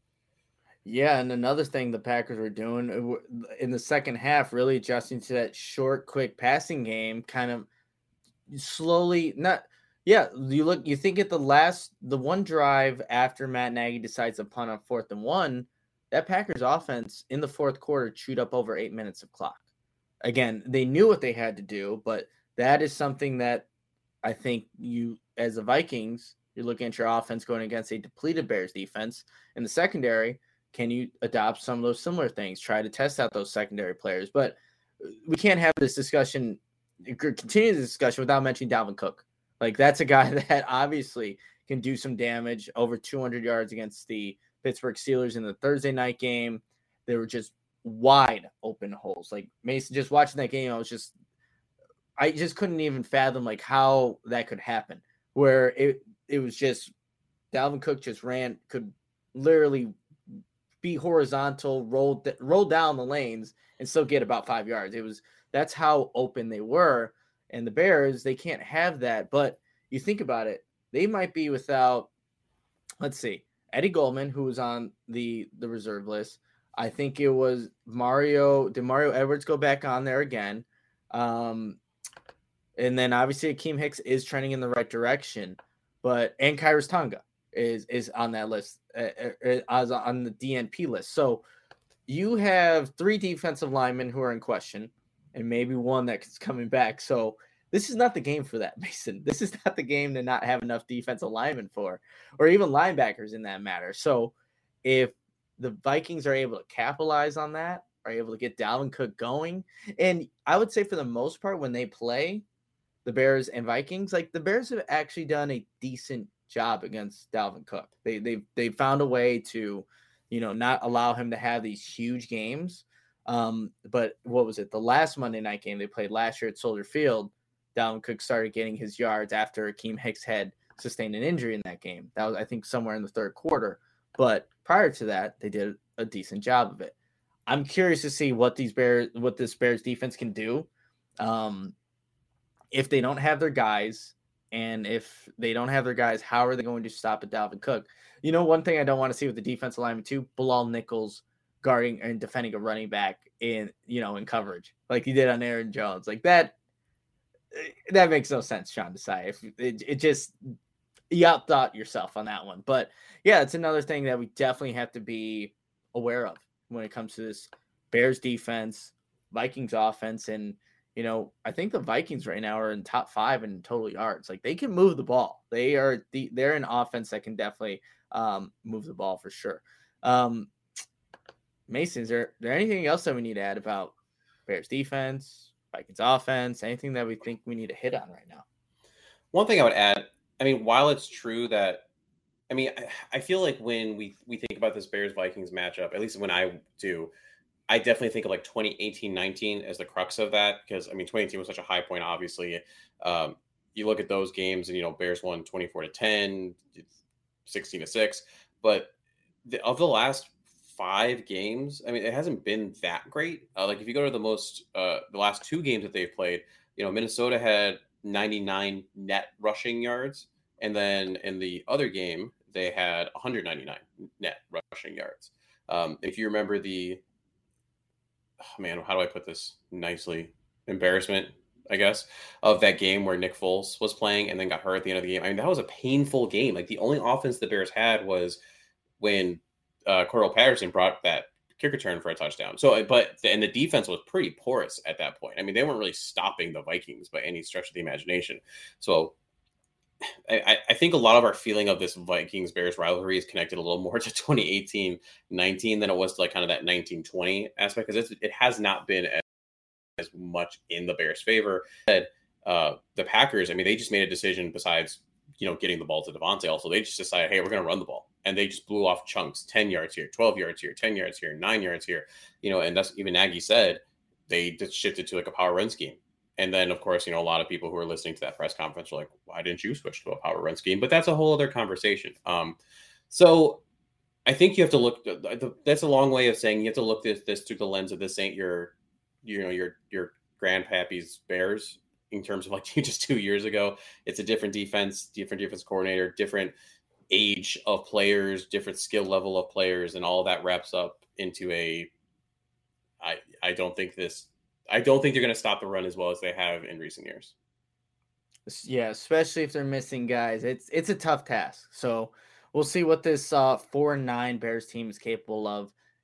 Yeah, and another thing the Packers were doing in the second half, really adjusting to that short, quick passing game, kind of slowly not. Yeah, you look. You think at the last, the one drive after Matt Nagy decides to punt on fourth and one, that Packers offense in the fourth quarter chewed up over eight minutes of clock. Again, they knew what they had to do, but that is something that I think you, as the Vikings, you're looking at your offense going against a depleted Bears defense. In the secondary, can you adopt some of those similar things? Try to test out those secondary players. But we can't have this discussion, continue the discussion without mentioning Dalvin Cook. Like, that's a guy that obviously can do some damage, over two hundred yards against the Pittsburgh Steelers in the Thursday night game. They were just wide open holes. Like, Mason, just watching that game, I was just, I just couldn't even fathom like how that could happen, where it, it was just Dalvin Cook just ran, could literally be horizontal, roll, roll down the lanes and still get about five yards. It was, that's how open they were. And the Bears, they can't have that. But you think about it, they might be without, let's see, Eddie Goldman, who was on the, the reserve list. I think it was Mario. Did Mario Edwards go back on there again? Um, and then obviously Akeem Hicks is trending in the right direction. But and Khyiris Tonga is is on that list, uh, as on the D N P list. So you have three defensive linemen who are in question, and maybe one that's coming back. So this is not the game for that, Mason. This is not the game to not have enough defensive linemen for, or even linebackers in that matter. So if the Vikings are able to capitalize on that, are able to get Dalvin Cook going, and I would say for the most part when they play the Bears and Vikings, like the Bears have actually done a decent job against Dalvin Cook. They they they found a way to, you know, not allow him to have these huge games. Um, but what was it? The last Monday night game they played last year at Soldier Field, Dalvin Cook started getting his yards after Akeem Hicks had sustained an injury in that game. That was, I think, somewhere in the third quarter. But prior to that, they did a decent job of it. I'm curious to see what these Bears, what this Bears defense can do. Um, if they don't have their guys, and if they don't have their guys, how are they going to stop a Dalvin Cook? You know, one thing I don't want to see with the defensive lineman too, Bilal Nichols guarding and defending a running back in, you know, in coverage like he did on Aaron Jones. Like that, that makes no sense, Sean Desai. If it, it just, you outthought yourself on that one. But yeah, it's another thing that we definitely have to be aware of when it comes to this Bears defense, Vikings offense. And, you know, I think the Vikings right now are in top five in total yards. Like they can move the ball. They are the, they're an offense that can definitely um, move the ball for sure. Um, Mason, is there, there anything else that we need to add about Bears defense, Vikings offense, anything that we think we need to hit on right now? One thing I would add, I mean, while it's true that, I mean, I, I feel like when we, we think about this Bears-Vikings matchup, at least when I do, I definitely think of like twenty eighteen nineteen as the crux of that, because, I mean, twenty eighteen was such a high point, obviously. Um, you look at those games and, you know, Bears won twenty-four to ten, sixteen to six, but the, of the last five games, I mean, it hasn't been that great. Uh, like if you go to the most, uh, the last two games that they've played, you know, Minnesota had ninety-nine net rushing yards. And then in the other game, they had one hundred ninety-nine net rushing yards. Um, if you remember the, oh man, how do I put this nicely? Embarrassment, I guess, of that game where Nick Foles was playing and then got hurt at the end of the game. I mean, that was a painful game. Like the only offense the Bears had was when uh, Cordell Patterson brought that kick return for a touchdown. So, but, and the defense was pretty porous at that point. I mean, they weren't really stopping the Vikings by any stretch of the imagination. So I, I think a lot of our feeling of this Vikings-Bears rivalry is connected a little more to twenty eighteen nineteen than it was to like kind of that nineteen twenty aspect, because it has not been as, as much in the Bears' favor. Uh, the Packers, I mean, they just made a decision besides, you know, getting the ball to Devontae. Also, they just decided, hey, we're going to run the ball. And they just blew off chunks, ten yards here, twelve yards here, ten yards here, nine yards here. You know, and that's even Nagy said they just shifted to like a power run scheme. And then, of course, you know, a lot of people who are listening to that press conference are like, why didn't you switch to a power run scheme? But that's a whole other conversation. Um, so I think you have to look, that's a long way of saying you have to look at this through the lens of this ain't your, you know, your, your grandpappy's Bears in terms of like just two years ago. It's a different defense, different defense coordinator, different age of players, different skill level of players, and all that wraps up into a, I, I don't think this, I don't think they're going to stop the run as well as they have in recent years. Yeah, especially if they're missing guys. It's it's a tough task. So we'll see what this uh, four and nine Bears team is capable of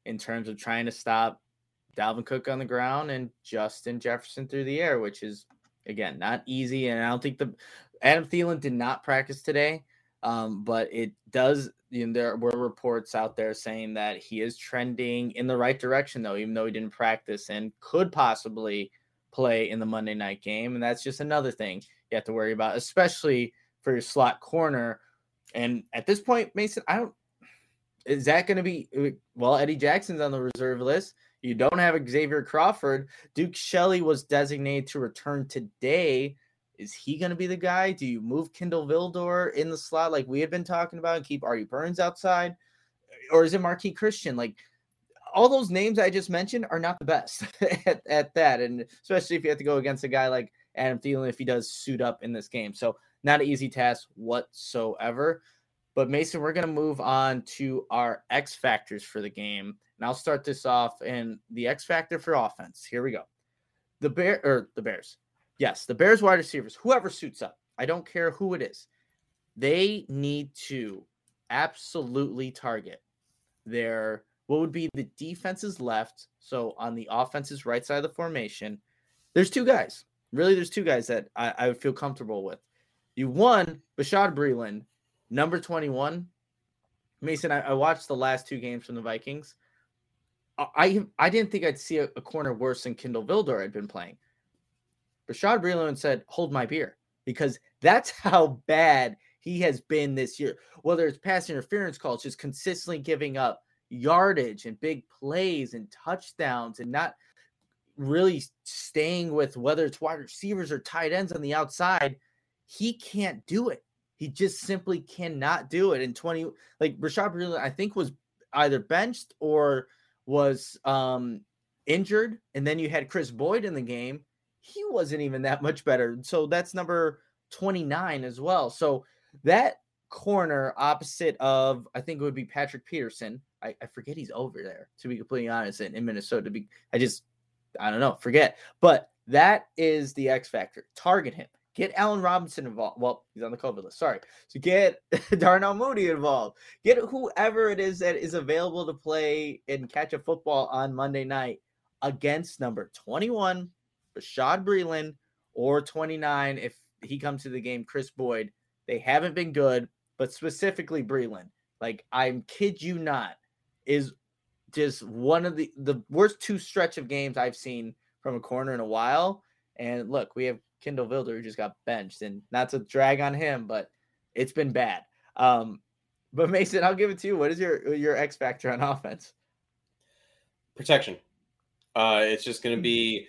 in terms of trying to stop Dalvin Cook on the ground and Justin Jefferson through the air, which is, again, not easy. And I don't think the Adam Thielen did not practice today, um, but it does. You know, there were reports out there saying that he is trending in the right direction, though, even though he didn't practice and could possibly play in the Monday night game. And that's just another thing you have to worry about, especially for your slot corner. And at this point, Mason, I don't. Is that going to be, well, Eddie Jackson's on the reserve list. You don't have Xavier Crawford. Duke Shelley was designated to return today. Is he going to be the guy? Do you move Kindle Vildor in the slot like we had been talking about and keep Artie Burns outside? Or is it Marquis Christian? Like, all those names I just mentioned are not the best at, at that. And especially if you have to go against a guy like Adam Thielen, if he does suit up in this game. So not an easy task whatsoever. But Mason, we're going to move on to our X factors for the game. And I'll start this off. And the X factor for offense, here we go. The Bear or the Bears. Yes, the Bears wide receivers, whoever suits up. I don't care who it is. They need to absolutely target their, what would be the defense's left. So on the offense's right side of the formation, there's two guys. Really, there's two guys that I, I would feel comfortable with. You one, Bashaud Breeland, number twenty-one. Mason, I, I watched the last two games from the Vikings. I I didn't think I'd see a, a corner worse than Kindle Vildor had been playing. Bashaud Breeland said, hold my beer, because that's how bad he has been this year. Whether it's pass interference calls, just consistently giving up yardage and big plays and touchdowns and not really staying with whether it's wide receivers or tight ends on the outside. He can't do it. He just simply cannot do it. In twenty, like Bashaud Breeland, I think was either benched or was um, injured. And then you had Chris Boyd in the game. He wasn't even that much better. So that's number twenty-nine as well. So that corner opposite of, I think it would be Patrick Peterson. I, I forget he's over there, to be completely honest, in, in Minnesota. Be, I just, I don't know, forget. But that is the X factor. Target him. Get Allen Robinson involved. Well, he's on the COVID list. Sorry. So get Darnell Mooney involved. Get whoever it is that is available to play and catch a football on Monday night against number twenty-one, Bashaud Breeland, or twenty-nine, if he comes to the game, Chris Boyd. They haven't been good, but specifically Breeland. Like, I kid you not, is just one of the, the worst two stretch of games I've seen from a corner in a while. And look, we have Kindle Vildor, who just got benched, and not to drag on him, but it's been bad. Um, but Mason, I'll give it to you. What is your your X factor on offense? Protection. Uh, it's just going to be,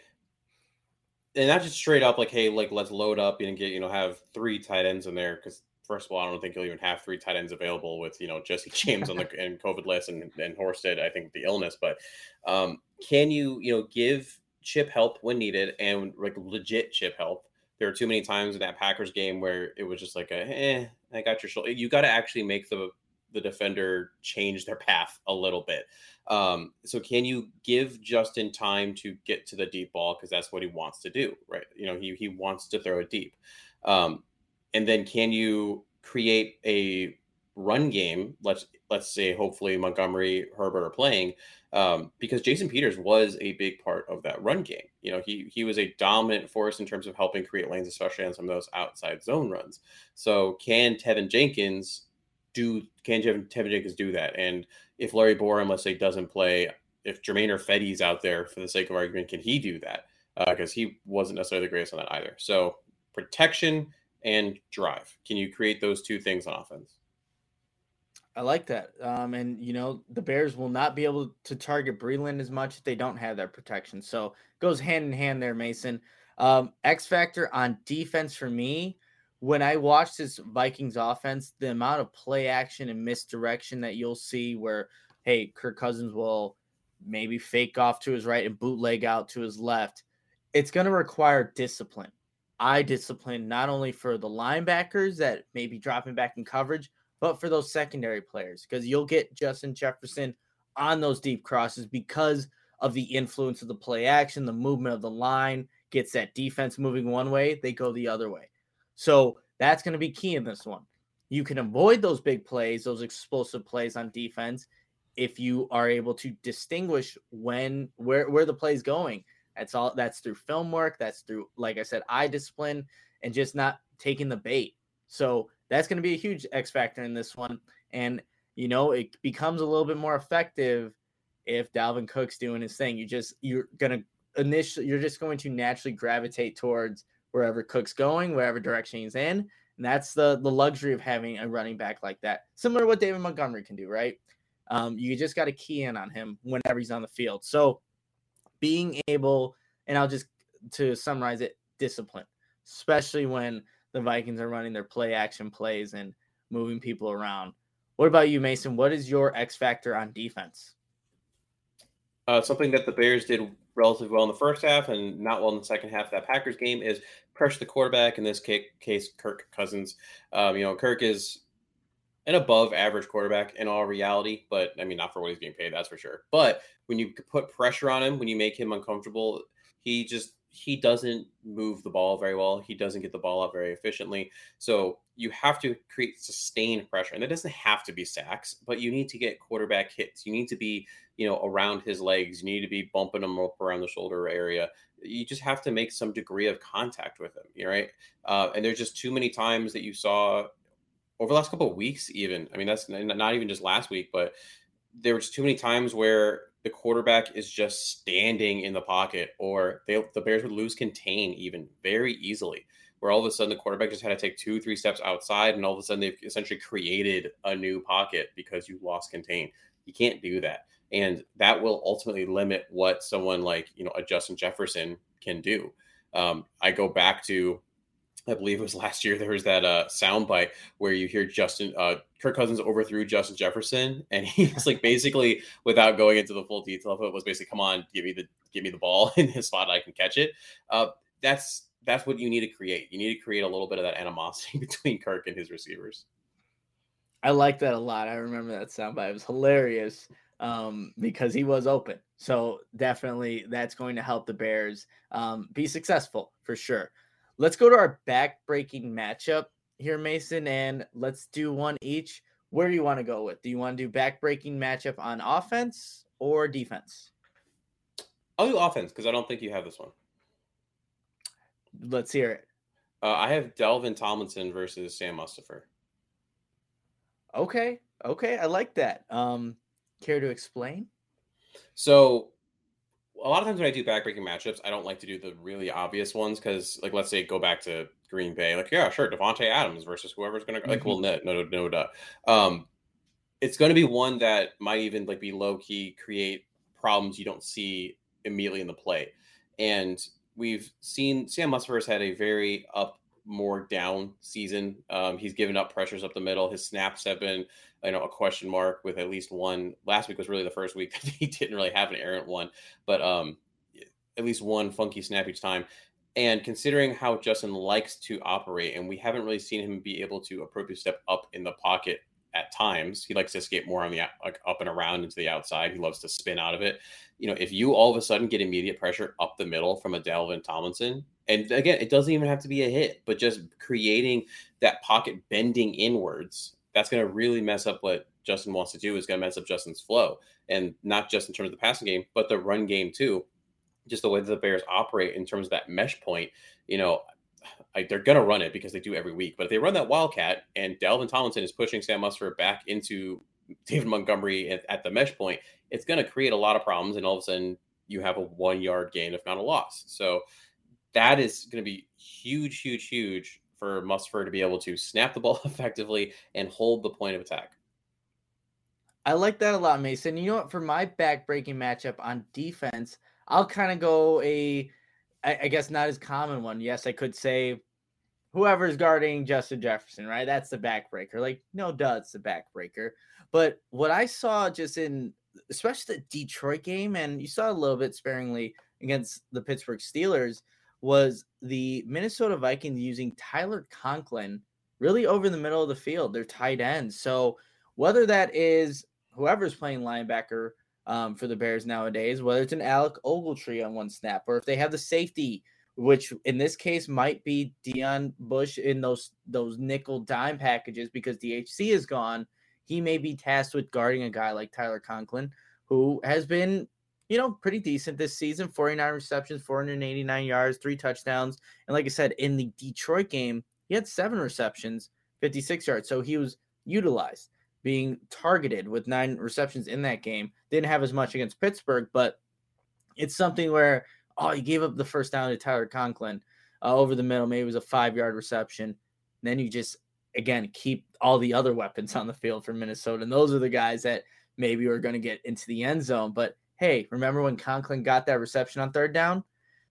and not just straight up like, hey, like let's load up and get, you know, have three tight ends in there. Because first of all, I don't think you'll even have three tight ends available with, you know, Jesse James on the and COVID list and and Horsted, I think, the illness. But um, can you, you know, give chip help when needed, and like legit chip help? There were too many times in that Packers game where it was just like, a, eh, I got your shoulder. You got to actually make the the defender change their path a little bit. Um, so can you give Justin time to get to the deep ball? Because that's what he wants to do, right? You know, he he wants to throw it deep. Um, and then can you create a run game? Let's let's say hopefully Montgomery, Herbert are playing, um, because Jason Peters was a big part of that run game. You know, he he was a dominant force in terms of helping create lanes, especially on some of those outside zone runs. So can Tevin Jenkins do? Can Tevin, Tevin Jenkins do that? And if Larry Borum, let's say, doesn't play, if Jermaine Irfetti's out there for the sake of argument, can he do that? Because uh, he wasn't necessarily the greatest on that either. So protection and drive. Can you create those two things on offense? I like that. Um, and, you know, the Bears will not be able to target Breeland as much if they don't have that protection. So it goes hand in hand there, Mason. Um, X factor on defense for me, when I watch this Vikings offense, the amount of play action and misdirection that you'll see where, hey, Kirk Cousins will maybe fake off to his right and bootleg out to his left, it's going to require discipline. Eye discipline, not only for the linebackers that may be dropping back in coverage, but for those secondary players, because you'll get Justin Jefferson on those deep crosses because of the influence of the play action, the movement of the line gets that defense moving one way, they go the other way. So that's going to be key in this one. You can avoid those big plays, those explosive plays on defense, if you are able to distinguish when where where the play is going. That's all. That's through film work. That's through, like I said, eye discipline and just not taking the bait. So that's going to be a huge X factor in this one. And, you know, it becomes a little bit more effective if Dalvin Cook's doing his thing. You just, you're going to initially, you're just going to naturally gravitate towards wherever Cook's going, wherever direction he's in. And that's the, the luxury of having a running back like that. Similar to what David Montgomery can do, right? Um, you just got to key in on him whenever he's on the field. So being able, and I'll just, to summarize it, discipline, especially when the Vikings are running their play action plays and moving people around. What about you, Mason? What is your X factor on defense? Uh, something that the Bears did relatively well in the first half and not well in the second half of that Packers game is pressure the quarterback, in this case, Kirk Cousins. Um, you know, Kirk is an above average quarterback in all reality, but I mean, not for what he's being paid, that's for sure. But when you put pressure on him, when you make him uncomfortable, he just, he doesn't move the ball very well. He doesn't get the ball up very efficiently. So you have to create sustained pressure, and that doesn't have to be sacks, but you need to get quarterback hits. You need to be, you know, around his legs. You need to be bumping him up around the shoulder area. You just have to make some degree of contact with him. Right. Uh, and there's just too many times that you saw over the last couple of weeks, even, I mean, that's not even just last week, but there was too many times where the quarterback is just standing in the pocket, or they, the Bears would lose contain even very easily, where all of a sudden the quarterback just had to take two, three steps outside, and all of a sudden they've essentially created a new pocket because you lost contain. You can't do that. And that will ultimately limit what someone like, you know, a Justin Jefferson can do. Um, I go back to, I believe it was last year, there was that uh, soundbite where you hear Justin, uh, Kirk Cousins overthrew Justin Jefferson, and he's like, basically, without going into the full detail of it, was basically, come on, give me the give me the ball in his spot, I can catch it. Uh, that's that's what you need to create. You need to create a little bit of that animosity between Kirk and his receivers. I like that a lot. I remember that soundbite. It was hilarious um, because he was open. So definitely that's going to help the Bears um, be successful for sure. Let's go to our back-breaking matchup here, Mason, and let's do one each. Where do you want to go with? Do you want to do back-breaking matchup on offense or defense? I'll do offense because I don't think you have this one. Let's hear it. Uh, I have Dalvin Tomlinson versus Sam Mustipher. Okay, okay, I like that. Um, care to explain? So a lot of times when I do backbreaking matchups, I don't like to do the really obvious ones because, like, let's say go back to Green Bay. Like, yeah, sure, Devontae Adams versus whoever's going to go. Like, well, no, no, no, no, um, it's going to be one that might even like be low key, create problems you don't see immediately in the play. And we've seen Sam Mustipher's had a very up, more down season. Um, he's given up pressures up the middle. His snaps have been, you know, a question mark, with at least one. Last week was really the first week that he didn't really have an errant one, but um, at least one funky snap each time. And considering how Justin likes to operate, and we haven't really seen him be able to appropriately step up in the pocket at times. He likes to escape more on the like up and around into the outside. He loves to spin out of it. You know, if you all of a sudden get immediate pressure up the middle from a Dalvin Tomlinson, and again, it doesn't even have to be a hit, but just creating that pocket bending inwards, that's going to really mess up what Justin wants to do. Is going to mess up Justin's flow, and not just in terms of the passing game, but the run game too. Just the way that the Bears operate in terms of that mesh point, you know, I, they're going to run it because they do every week. But if they run that Wildcat and Dalvin Tomlinson is pushing Sam Mustipher back into David Montgomery at, at the mesh point, it's going to create a lot of problems. And all of a sudden you have a one yard gain, if not a loss. So that is going to be huge, huge, huge for Mustipher to be able to snap the ball effectively and hold the point of attack. I like that a lot, Mason. You know what? For my back-breaking matchup on defense, I'll kind of go a, I, I guess not as common one. Yes, I could say whoever's guarding Justin Jefferson, right? That's the backbreaker. Like, no duh, it's the backbreaker. But what I saw just in, especially the Detroit game, and you saw a little bit sparingly against the Pittsburgh Steelers, was the Minnesota Vikings using Tyler Conklin really over the middle of the field, their tight end. So whether that is whoever's playing linebacker um, for the Bears nowadays, whether it's an Alec Ogletree on one snap, or if they have the safety, which in this case might be Deion Bush in those those nickel dime packages because D H C is gone, he may be tasked with guarding a guy like Tyler Conklin, who has been, you know, pretty decent this season. forty-nine receptions, four hundred eighty-nine yards, three touchdowns. And like I said, in the Detroit game, he had seven receptions, fifty-six yards. So he was utilized, being targeted with nine receptions in that game. Didn't have as much against Pittsburgh, but it's something where, oh, you gave up the first down to Tyler Conklin uh, over the middle. Maybe it was a five-yard reception. Then you just, again, keep all the other weapons on the field for Minnesota. And those are the guys that maybe are going to get into the end zone. But, hey, remember when Conklin got that reception on third down?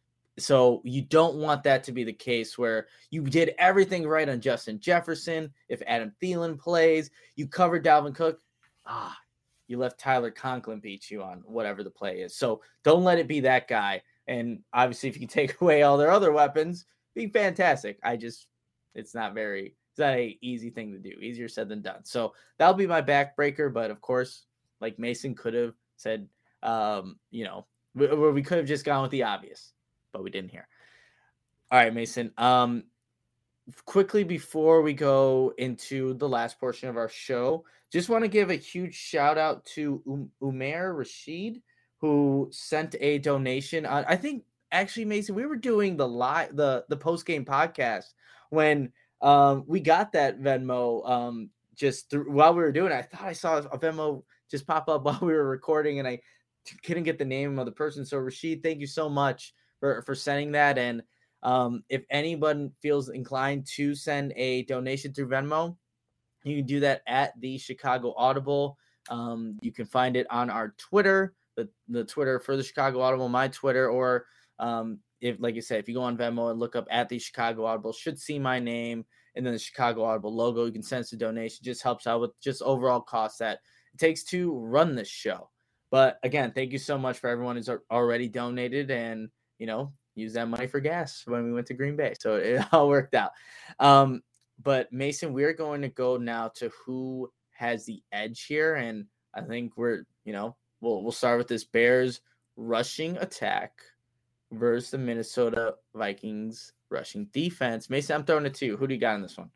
So you don't want that to be the case where you did everything right on Justin Jefferson. If Adam Thielen plays, you covered Dalvin Cook. Ah, you left Tyler Conklin beat you on whatever the play is. So don't let it be that guy. And obviously, if you can take away all their other weapons, be fantastic. I just, it's not very, it's not an easy thing to do. Easier said than done. So that'll be my backbreaker. But of course, like Mason could have said, um, you know, we, we could have just gone with the obvious, but we didn't hear. All right, Mason. Um, quickly before we go into the last portion of our show, just want to give a huge shout out to um, Umair Rashid, who sent a donation on, I think actually, Mason, we were doing the live, the, the post-game podcast when um, we got that Venmo um, just through, while we were doing it. I thought I saw a Venmo just pop up while we were recording, and I couldn't get the name of the person. So Rashid, thank you so much for, for sending that. And um, if anyone feels inclined to send a donation through Venmo, you can do that at the Chicago Audible. Um, you can find it on our Twitter, the, the Twitter for the Chicago Audible, my Twitter, or um, if, like I said, if you go on Venmo and look up at the Chicago Audible, should see my name and then the Chicago Audible logo. You can send us a donation. Just helps out with just overall costs that it takes to run this show. But again, thank you so much for everyone who's already donated and, you know, use that money for gas when we went to Green Bay. So it all worked out. Um, but Mason, we're going to go now to who has the edge here. And I think we're, you know, we'll, we'll start with this Bears rushing attack versus the Minnesota Vikings rushing defense. Mason, I'm throwing it to you. Who do you got in this one?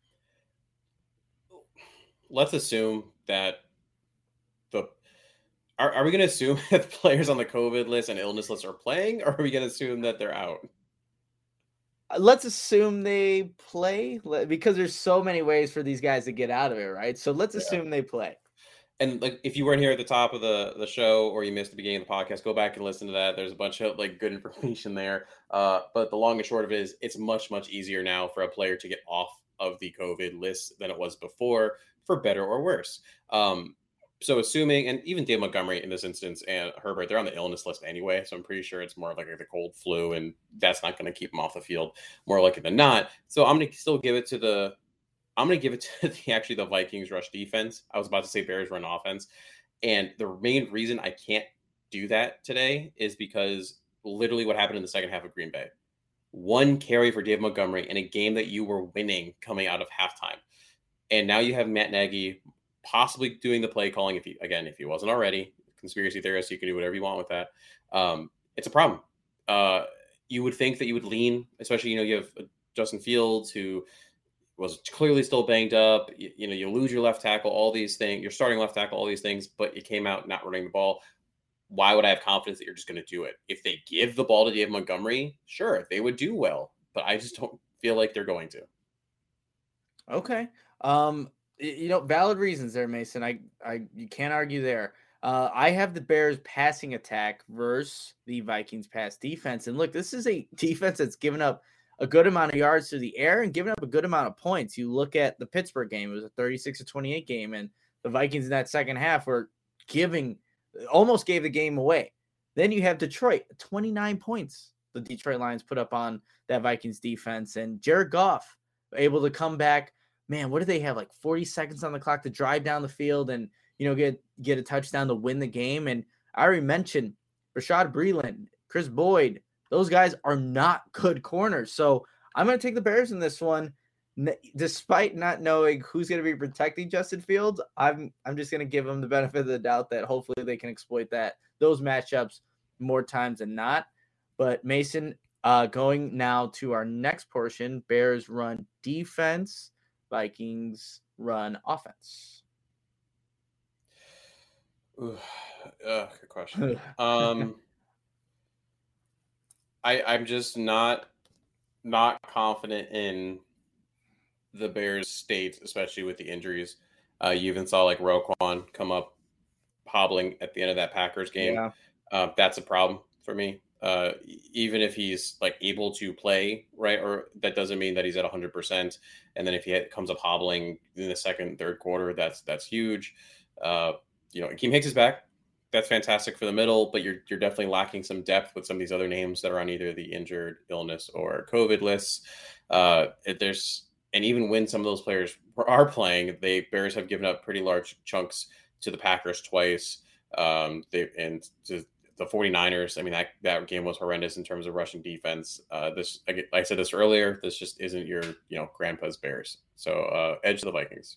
Let's assume that the Are, are we going to assume that the players on the COVID list and illness list are playing, or are we going to assume that they're out? Let's assume they play because there's so many ways for these guys to get out of it, right? So let's yeah. assume they play. And like, if you weren't here at the top of the, the show or you missed the beginning of the podcast, go back and listen to that. There's a bunch of like good information there. Uh, but the long and short of it is it's much, much easier now for a player to get off of the COVID list than it was before, for better or worse. Um, So assuming, and even Dave Montgomery in this instance and Herbert, they're on the illness list anyway. So I'm pretty sure it's more of like the cold flu, and that's not going to keep them off the field more likely than not. So I'm going to still give it to the, I'm going to give it to the, actually the Vikings rush defense. I was about to say Bears run offense. And the main reason I can't do that today is because literally what happened in the second half of Green Bay. One carry for Dave Montgomery in a game that you were winning coming out of halftime. And now you have Matt Nagy possibly doing the play calling. If he, again, if he wasn't already, conspiracy theorist, you can do whatever you want with that. Um, it's a problem. Uh, you would think that you would lean, especially, you know, you have Justin Fields, who was clearly still banged up. You, you know, you lose your left tackle, all these things, you're starting left tackle, all these things, but you came out not running the ball. Why would I have confidence that you're just going to do it? If they give the ball to Dave Montgomery, sure, they would do well, but I just don't feel like they're going to. Okay. Um, You know, valid reasons there, Mason. I, I, you can't argue there. Uh, I have the Bears passing attack versus the Vikings pass defense. And look, this is a defense that's given up a good amount of yards through the air and given up a good amount of points. You look at the Pittsburgh game, it was a thirty-six to twenty-eight game, and the Vikings in that second half were giving, almost gave the game away. Then you have Detroit, twenty-nine points the Detroit Lions put up on that Vikings defense, and Jared Goff able to come back. Man, what do they have? Like forty seconds on the clock to drive down the field and, you know, get, get a touchdown to win the game. And I already mentioned Rashad Breeland, Chris Boyd. Those guys are not good corners. So I'm going to take the Bears in this one. Despite not knowing who's going to be protecting Justin Fields, I'm I'm just going to give them the benefit of the doubt that hopefully they can exploit that those matchups more times than not. But Mason, uh, going now to our next portion, Bears run defense, Vikings run offense. Ooh, uh, good question. um, I I'm just not not confident in the Bears' state, especially with the injuries. Uh, you even saw like Roquan come up hobbling at the end of that Packers game. Yeah. Um, that's a problem for me. Uh, even if he's like able to play, right, or that doesn't mean that he's at one hundred percent. And then if he comes up hobbling in the second, third quarter, that's that's huge. Uh, you know, Akeem Hicks is back. That's fantastic for the middle, but you're you're definitely lacking some depth with some of these other names that are on either the injured, illness, or COVID lists. Uh, there's and even when some of those players are playing, they Bears have given up pretty large chunks to the Packers twice. Um, they and to the 49ers. I mean, that, that game was horrendous in terms of rushing defense. Uh, this, like I said this earlier, this just isn't your, you know, grandpa's Bears. So uh, edge of the Vikings.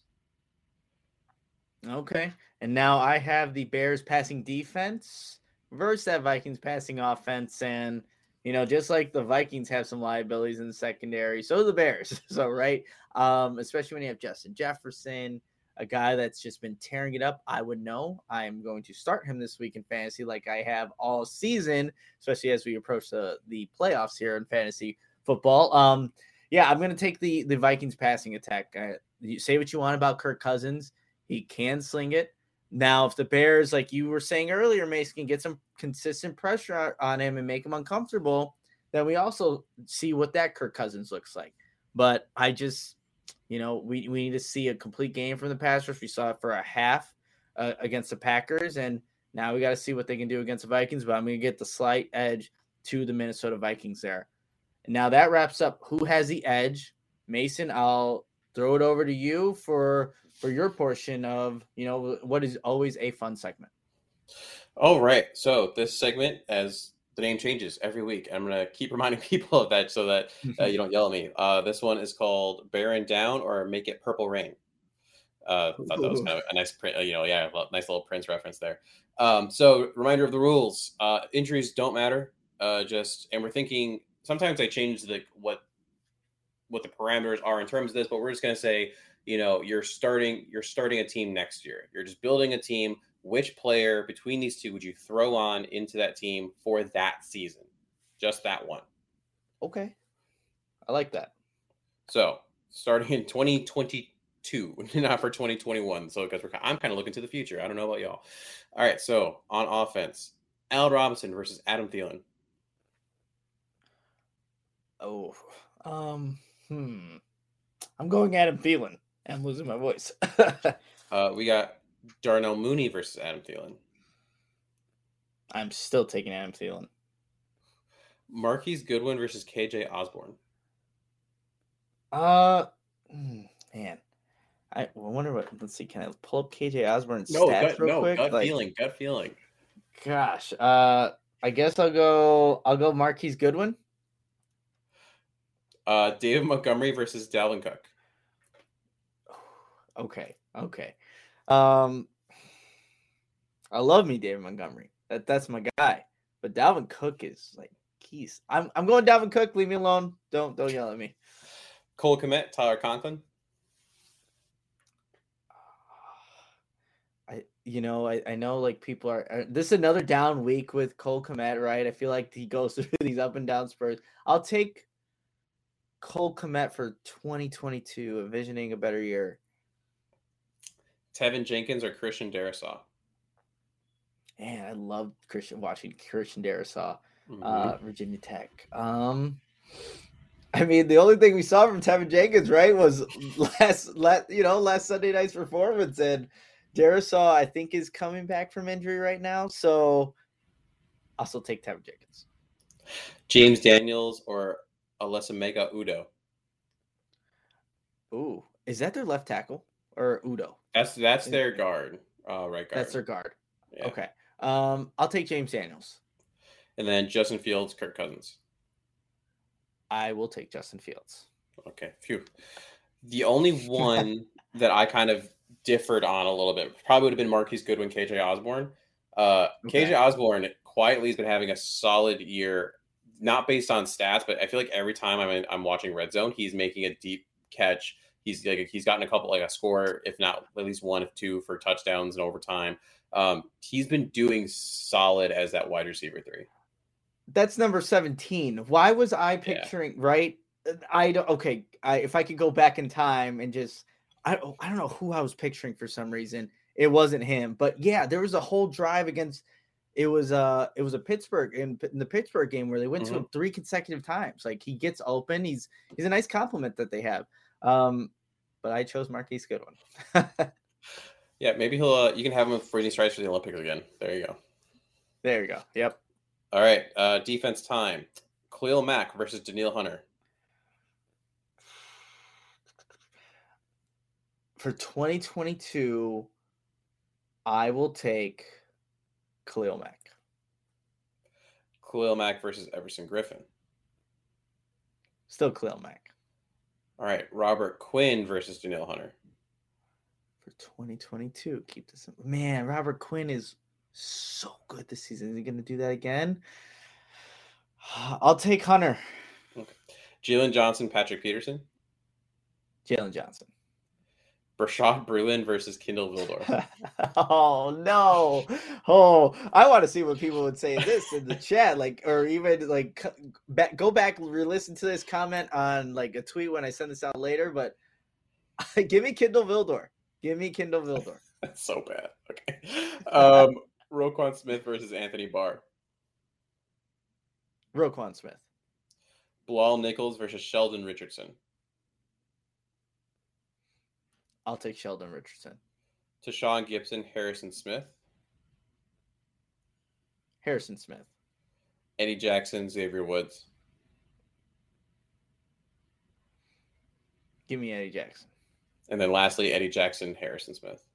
Okay. And now I have the Bears passing defense versus that Vikings passing offense. And, you know, just like the Vikings have some liabilities in the secondary, so do the Bears. So, right. Um, especially when you have Justin Jefferson, a guy that's just been tearing it up. I would know. I'm going to start him this week in fantasy like I have all season, especially as we approach the, the playoffs here in fantasy football. Um, yeah, I'm going to take the, the Vikings passing attack. Uh, you say what you want about Kirk Cousins. He can sling it. Now, if the Bears, like you were saying earlier, Mason, can get some consistent pressure on him and make him uncomfortable, then we also see what that Kirk Cousins looks like. But I just... You know, we, we need to see a complete game from the pass rush. We saw it for a half uh, against the Packers, and now we got to see what they can do against the Vikings. But I'm going to get the slight edge to the Minnesota Vikings there. And now that wraps up who has the edge. Mason, I'll throw it over to you for for your portion of, you know, what is always a fun segment. All right. So this segment, as the name changes every week. I'm going to keep reminding people of that so that uh, you don't yell at me. Uh, this one is called Bearing Down or Make It Purple Rain. Uh, I thought that was kind of a nice, you know, yeah, nice little Prince reference there. Um, so reminder of the rules. Uh, injuries don't matter. Uh, just, and we're thinking, sometimes I change the, what, what the parameters are in terms of this, but we're just going to say, you know, you're starting, you're starting a team next year. You're just building a team. Which player between these two would you throw on into that team for that season? Just that one. Okay. I like that. So starting in twenty twenty-two, not for twenty twenty-one. So because I'm kind of looking to the future. I don't know about y'all. All right. So on offense, Allen Robinson versus Adam Thielen. Oh, um, hmm. I'm going Adam Thielen. I'm losing my voice. uh, we got Darnell Mooney versus Adam Thielen. I'm still taking Adam Thielen. Marquise Goodwin versus K J Osborne. Uh, man, I wonder what. Let's see. Can I pull up K J Osborne's no, stats gut, real no, quick? Gut like, feeling, gut feeling. Gosh, uh, I guess I'll go. I'll go Marquise Goodwin. Uh, David Montgomery versus Dalvin Cook. Okay, okay. Um, I love me David Montgomery. That that's my guy. But Dalvin Cook is like keys. I'm I'm going Dalvin Cook. Leave me alone. Don't don't yell at me. Cole Kmet, Tyler Conklin. I you know I, I know like people are, are this is another down week with Cole Kmet, right? I feel like he goes through these up and down spurts. I'll take Cole Kmet for twenty twenty-two, envisioning a better year. Tevin Jenkins or Christian Darrisaw? Man, I love Christian watching Christian Darrisaw, mm-hmm. uh, Virginia Tech. Um, I mean, the only thing we saw from Tevin Jenkins, right, was last, last, you know, last Sunday night's performance, and Darrisaw, I think, is coming back from injury right now. So, I'll still take Tevin Jenkins. James Daniels or Alesemega Udo? Ooh, is that their left tackle or Udo? That's that's their guard, uh, right guard. That's their guard. Yeah. Okay. Um, I'll take James Daniels. And then Justin Fields, Kirk Cousins. I will take Justin Fields. Okay. Phew. The only one that I kind of differed on a little bit probably would have been Marquise Goodwin, K J Osborne. Uh, okay. K J Osborne quietly has been having a solid year, not based on stats, but I feel like every time I'm in, I'm watching Red Zone, he's making a deep catch. He's like he's gotten a couple, like a score, if not at least one, if two, for touchdowns and overtime. Um, he's been doing solid as that wide receiver three. That's number seventeen. Why was I picturing yeah. right? I don't. Okay, I, if I could go back in time and just, I I don't know who I was picturing for some reason. It wasn't him, but yeah, there was a whole drive against. It was uh it was a Pittsburgh in, in the Pittsburgh game where they went mm-hmm. to him three consecutive times. Like he gets open. He's he's a nice compliment that they have. Um, but I chose Marquise Goodwin. Yeah, maybe he'll. Uh, you can have him for any strikes for the Olympics again. There you go. There you go. Yep. All right. Uh, defense time. Khalil Mack versus Danielle Hunter. For twenty twenty-two, I will take Khalil Mack. Khalil Mack versus Everson Griffin. Still Khalil Mack. All right. Robert Quinn versus Danielle Hunter. For twenty twenty-two, keep this. Man, Robert Quinn is so good this season. Is he going to do that again? I'll take Hunter. Okay. Jalen Johnson, Patrick Peterson. Jalen Johnson. Rashad Bruin versus Kindle Vildor. Oh no! Oh, I want to see what people would say this in the chat, like, or even like back, go back, re-listen to this comment on like a tweet when I send this out later. But give me Kindle Vildor. Give me Kindle Vildor. That's so bad. Okay. Um, Roquan Smith versus Anthony Barr. Roquan Smith. Bilal Nichols versus Sheldon Richardson. I'll take Sheldon Richardson. Tashawn Gibson, Harrison Smith. Harrison Smith. Eddie Jackson, Xavier Woods. Give me Eddie Jackson. And then lastly, Eddie Jackson, Harrison Smith.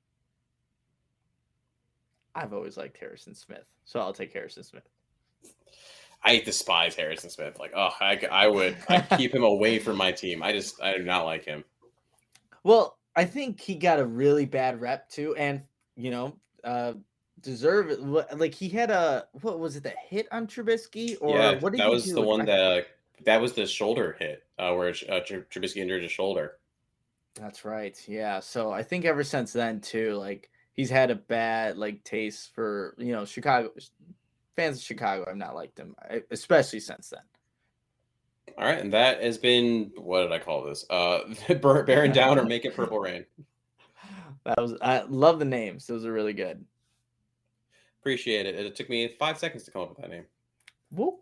I've always liked Harrison Smith, so I'll take Harrison Smith. I despise Harrison Smith. Like, oh, I, I would I keep him away from my team. I just, I do not like him. Well, I think he got a really bad rep too, and you know, uh, deserve it. Like he had a what was it? The hit on Trubisky, or yeah, what did that he was do? the one that uh, that was the shoulder hit uh, where uh, Trubisky injured his shoulder. That's right. Yeah. So I think ever since then too, like he's had a bad like taste for you know Chicago fans of Chicago. I've not liked him, especially since then. All right, and that has been, what did I call this? Uh, Bearing Down or Make It Purple Rain. That was, I love the names. Those are really good. Appreciate it. It took me five seconds to come up with that name. Whoop.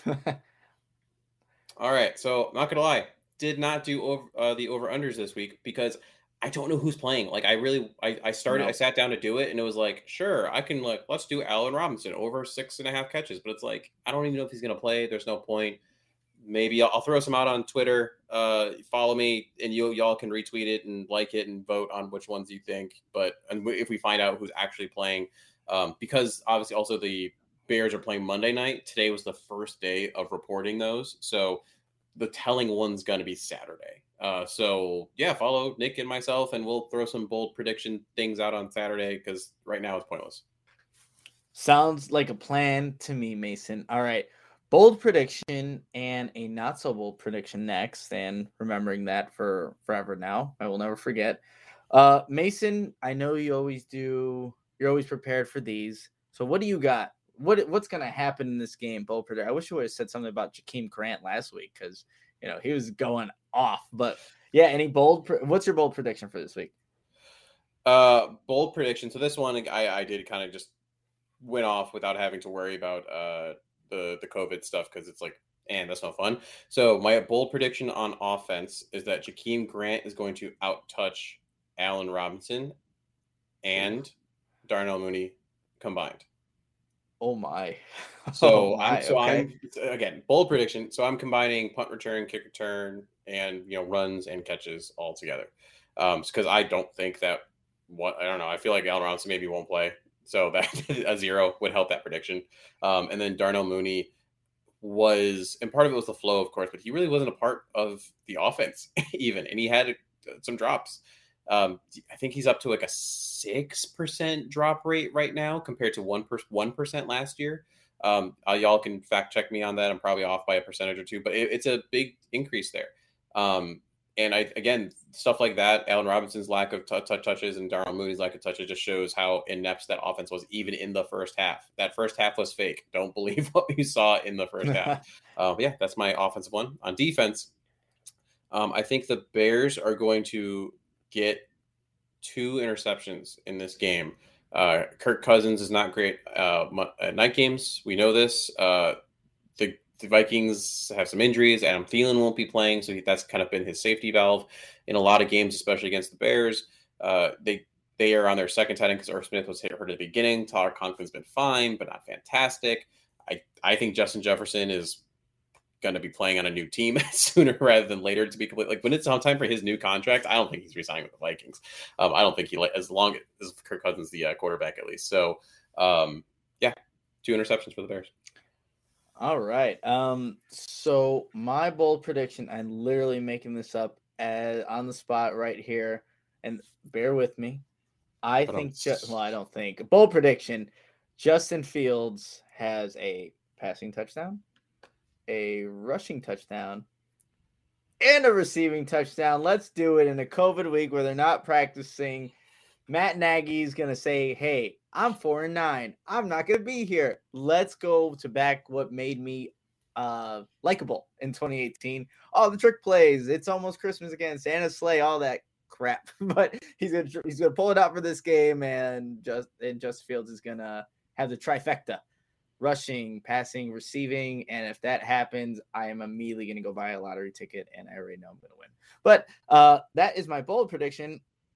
All right, so I'm not gonna lie, did not do over, uh, the over unders this week because I don't know who's playing. Like I really, I, I started, no. I sat down to do it, and it was like, sure, I can like, let's do Allen Robinson over six and a half catches, but it's like I don't even know if he's gonna play. There's no point. Maybe I'll, I'll throw some out on Twitter. Uh, follow me, and you y'all can retweet it and like it and vote on which ones you think. But and if we find out who's actually playing, um, because obviously also the Bears are playing Monday night. Today was the first day of reporting those, so the telling one's going to be Saturday. Uh, so yeah, follow Nick and myself, and we'll throw some bold prediction things out on Saturday because right now it's pointless. Sounds like a plan to me, Mason. All right. Bold prediction and a not so bold prediction next, and remembering that for forever now. I will never forget. Uh, Mason, I know you always do. You're always prepared for these. So what do you got? What what's going to happen in this game? Bold prediction. I wish you would have said something about Jakeem Grant last week because you know he was going off. But yeah, any bold? What's your bold prediction for this week? Uh, bold prediction. So this one, I I did kind of just went off without having to worry about uh. the the COVID stuff because it's like, and that's no fun. So my bold prediction on offense is that Jakeem Grant is going to outtouch Allen Robinson and Darnell Mooney combined. Oh my! So oh my, I'm so okay. I'm again bold prediction. So I'm combining punt return, kick return, and you know runs and catches all together. Um, because I don't think that what I don't know. I feel like Allen Robinson maybe won't play. So that a zero would help that prediction. Um, and then Darnell Mooney was, and part of it was the flow, of course, but he really wasn't a part of the offense even. And he had some drops. Um, I think he's up to like a six percent drop rate right now compared to one percent, one percent last year. Um, uh, y'all can fact check me on that. I'm probably off by a percentage or two, but it, it's a big increase there. Um, And I, again, stuff like that, Allen Robinson's lack of t- t- touches and Darnell Mooney's lack of touches just shows how inept that offense was, even in the first half. That first half was fake. Don't believe what you saw in the first half. Uh, yeah, that's my offensive one. On defense, um, I think the Bears are going to get two interceptions in this game. Uh, Kirk Cousins is not great uh, at night games. We know this. Uh, the The Vikings have some injuries. Adam Thielen won't be playing, so that's kind of been his safety valve in a lot of games, especially against the Bears. Uh, they they are on their second tight end because Irv Smith was hit hurt at the beginning. Tyler Conklin's been fine, but not fantastic. I, I think Justin Jefferson is going to be playing on a new team sooner rather than later. To be complete, like when it's time for his new contract, I don't think he's resigning with the Vikings. Um, I don't think he like as long as Kirk Cousins the uh, quarterback at least. So um, yeah, two interceptions for the Bears. All right. Um, so my bold prediction, I'm literally making this up as, on the spot right here, and bear with me. I, I think, ju- well, I don't think. Bold prediction, Justin Fields has a passing touchdown, a rushing touchdown, and a receiving touchdown. Let's do it in a COVID week where they're not practicing. Matt Nagy's going to say, hey, I'm four and nine. I'm not going to be here. Let's go to back what made me uh, likable in twenty eighteen. All the trick plays. It's almost Christmas again. Santa's sleigh, all that crap. But he's going to he's going to pull it out for this game, and just and Justin Fields is going to have the trifecta: rushing, passing, receiving. And if that happens, I am immediately going to go buy a lottery ticket, and I already know I'm going to win. But uh, that is my bold prediction.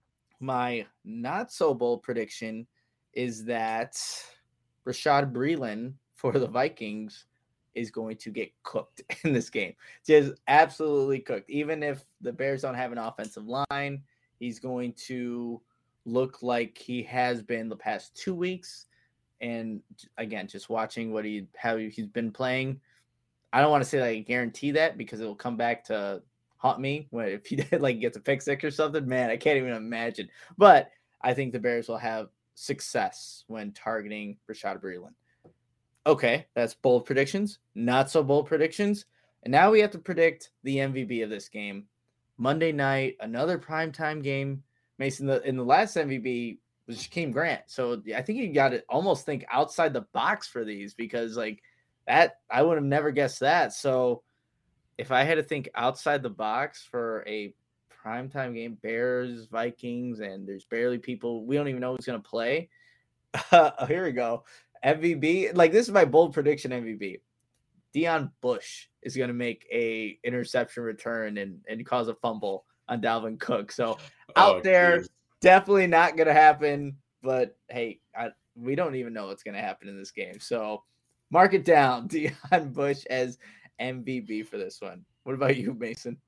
My not so bold prediction is that Rashad Breeland for the Vikings is going to get cooked in this game. Just absolutely cooked. Even if the Bears don't have an offensive line, he's going to look like he has been the past two weeks. And again, just watching what he how he's been playing, I don't want to say that I guarantee that because it will come back to haunt me when if he did like gets a pick six or something. Man, I can't even imagine. But I think the Bears will have success when targeting Rashad Breeland. Okay, that's bold predictions. Not so bold predictions. And now we have to predict the M V P of this game. Monday night, another primetime game. Mason, the, in the last M V P was Jakeem Grant. So I think you got to almost think outside the box for these because like that, I would have never guessed that. So if I had to think outside the box for a primetime game, Bears, Vikings, and there's barely people, we don't even know who's going to play. Uh, here we go. M V P, like this is my bold prediction M V P. Deion Bush is going to make a interception return and, and cause a fumble on Dalvin Cook. So out oh, there, geez. Definitely not going to happen. But hey, I, we don't even know what's going to happen in this game. So mark it down. Deion Bush as M V P for this one. What about you, Mason?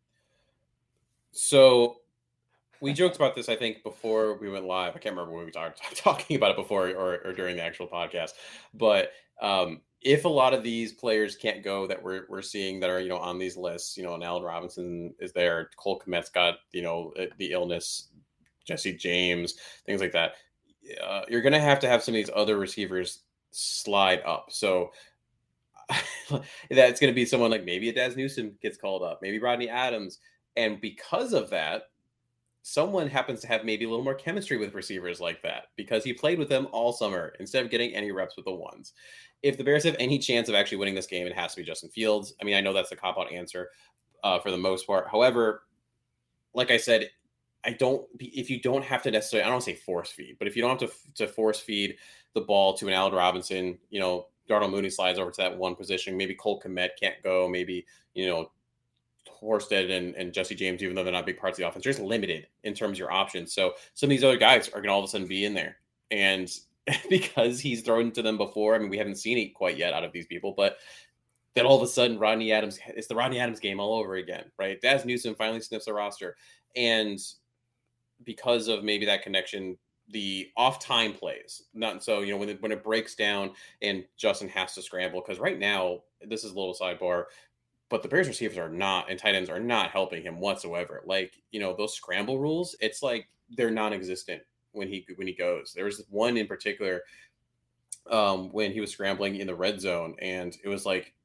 So we joked about this, I think, before we went live. I can't remember when we were talking about it before or, or during the actual podcast. But um, if a lot of these players can't go that we're we're seeing that are, you know, on these lists, you know, and Allen Robinson is there, Cole Kmet's got, you know, the illness, Jesse James, things like that. Uh, you're going to have to have some of these other receivers slide up. So that's going to be someone like maybe a Daz Newsome gets called up, maybe Rodney Adams. And because of that, someone happens to have maybe a little more chemistry with receivers like that because he played with them all summer instead of getting any reps with the ones. If the Bears have any chance of actually winning this game, it has to be Justin Fields. I mean, I know that's the cop-out answer uh, for the most part. However, like I said, I don't, if you don't have to necessarily, I don't say force feed, but if you don't have to, to force feed the ball to an Allen Robinson, you know, Darnell Mooney slides over to that one position. Maybe Cole Kmet can't go. Maybe, you know, Horsted and, and Jesse James, even though they're not big parts of the offense, they're just limited in terms of your options. So some of these other guys are going to all of a sudden be in there. And because he's thrown to them before, I mean, we haven't seen it quite yet out of these people, but then all of a sudden Rodney Adams, it's the Rodney Adams game all over again, right? Daz Newsome finally sniffs the roster. And because of maybe that connection, the off time plays, not so, you know, when it, when it breaks down and Justin has to scramble, because right now, this is a little sidebar, but the Bears receivers are not, and tight ends are not helping him whatsoever. Like, you know, those scramble rules, it's like they're non-existent when he when he goes. There was one in particular um, when he was scrambling in the red zone, and it was like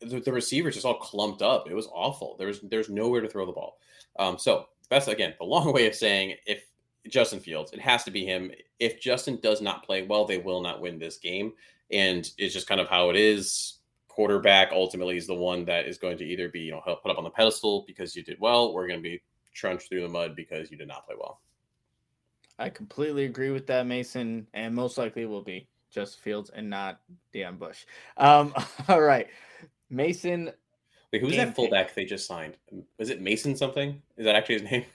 the, the receivers just all clumped up. It was awful. There was there's nowhere to throw the ball. Um, so that's again the long way of saying if Justin Fields, it has to be him. If Justin does not play well, they will not win this game, and it's just kind of how it is. Quarterback ultimately is the one that is going to either be, you know, put up on the pedestal because you did well, or going to be trunched through the mud because you did not play well. I completely agree with that, Mason, and most likely will be Justin Fields and not Deion Bush. Um, all right, Mason. Wait, who's that fullback pick they just signed? Was it Mason something? Is that actually his name?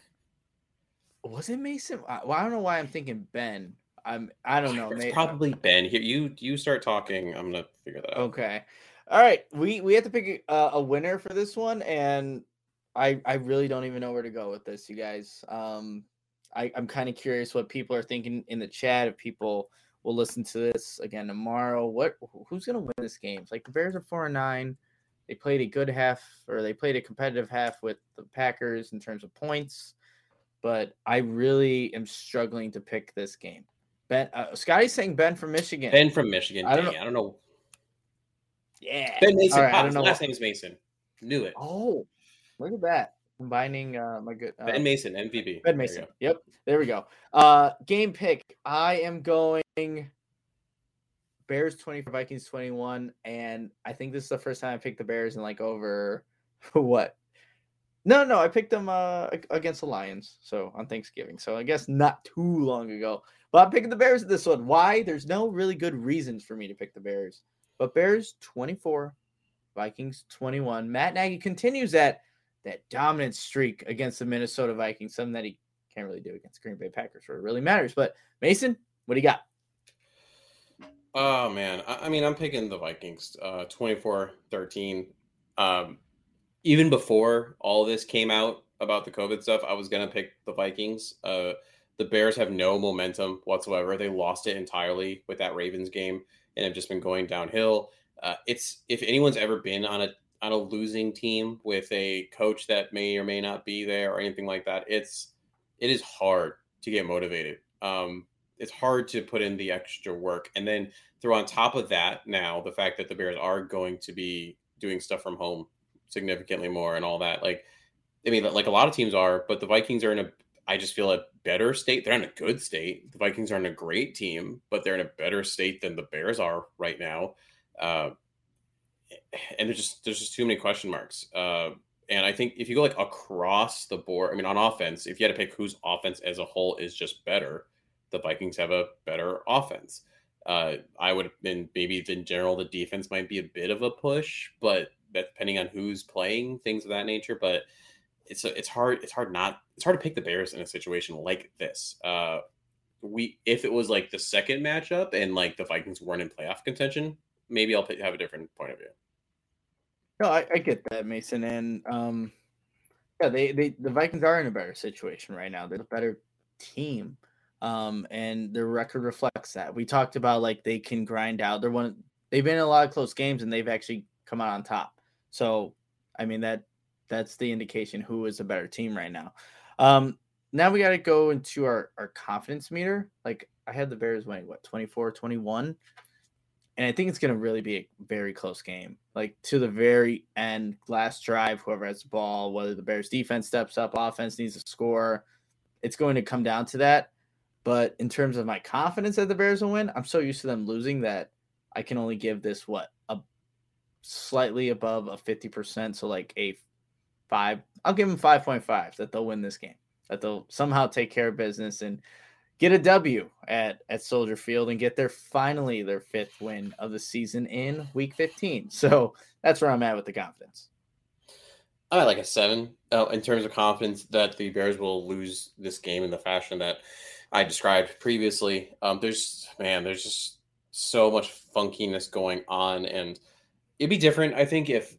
Was it Mason? Well, I don't know why I'm thinking Ben. I'm. I don't know. It's May- probably Ben. Here, you you start talking. I'm gonna figure that out. Okay. All right. We we have to pick a, a winner for this one, and I I really don't even know where to go with this, you guys. Um, I I'm kind of curious what people are thinking in the chat. If people will listen to this again tomorrow, what who's gonna win this game? It's like the Bears are four and nine. They played a good half, or they played a competitive half with the Packers in terms of points. But I really am struggling to pick this game. Ben, uh, Scotty's saying Ben from Michigan. Ben from Michigan. I don't Dang, know. I don't know. Yeah. Ben Mason. All right, Pop, I don't his know. last name's Mason. Knew it. Oh, look at that. Combining uh, my good. Uh, Ben Mason, M V P. Ben Mason. Yep. There we go. Uh, game pick. I am going Bears twenty-four, Vikings twenty-one. And I think this is the first time I picked the Bears in like over what? No, no, I picked them uh, against the Lions, so on Thanksgiving. So I guess not too long ago. But I'm picking the Bears at this one. Why? There's no really good reasons for me to pick the Bears. But Bears twenty-four, Vikings twenty-one. Matt Nagy continues that that dominant streak against the Minnesota Vikings, something that he can't really do against Green Bay Packers where it really matters. But Mason, what do you got? Oh, man. I, I mean, I'm picking the Vikings uh, twenty-four thirteen. Um, even before all this came out about the COVID stuff, I was going to pick the Vikings. Uh, the Bears have no momentum whatsoever. They lost it entirely with that Ravens game and have just been going downhill. Uh, it's if anyone's ever been on a on a losing team with a coach that may or may not be there or anything like that, it's it is hard to get motivated. Um, it's hard to put in the extra work. And then throw on top of that now the fact that the Bears are going to be doing stuff from home significantly more and all that. Like, I mean, like a lot of teams are, but the Vikings are in a, I just feel a better state. They're in a good state. The Vikings aren't a great team, but they're in a better state than the Bears are right now. Uh, and there's just, there's just too many question marks. Uh, and I think if you go like across the board, I mean, on offense, if you had to pick whose offense as a whole is just better, the Vikings have a better offense. Uh, I would, and maybe in general, the defense might be a bit of a push, but depending on who's playing, things of that nature. But it's it's hard. It's hard not. It's hard to pick the Bears in a situation like this. Uh, we if it was like the second matchup and like the Vikings weren't in playoff contention, maybe I'll have a different point of view. No, I, I get that, Mason, and um, yeah, they, they the Vikings are in a better situation right now. They're a better team, um, and their record reflects that. We talked about like they can grind out. They're one. They've been in a lot of close games, and they've actually come out on top. So, I mean that that's the indication who is a better team right now. Um, now we got to go into our our confidence meter. Like I had the Bears winning what twenty-four twenty-one. And I think it's going to really be a very close game, like to the very end, last drive, whoever has the ball, whether the Bears defense steps up, offense needs to score. It's going to come down to that. But in terms of my confidence that the Bears will win, I'm so used to them losing that I can only give this, what, a slightly above a fifty percent. So like a five, I'll give them five point five that they'll win this game, that they'll somehow take care of business and get a W at, at Soldier Field and get their finally their fifth win of the season in week fifteen. So that's where I'm at with the confidence. I like a seven uh, in terms of confidence that the Bears will lose this game in the fashion that I described previously. Um, there's, man, there's just so much funkiness going on, and it'd be different, I think, if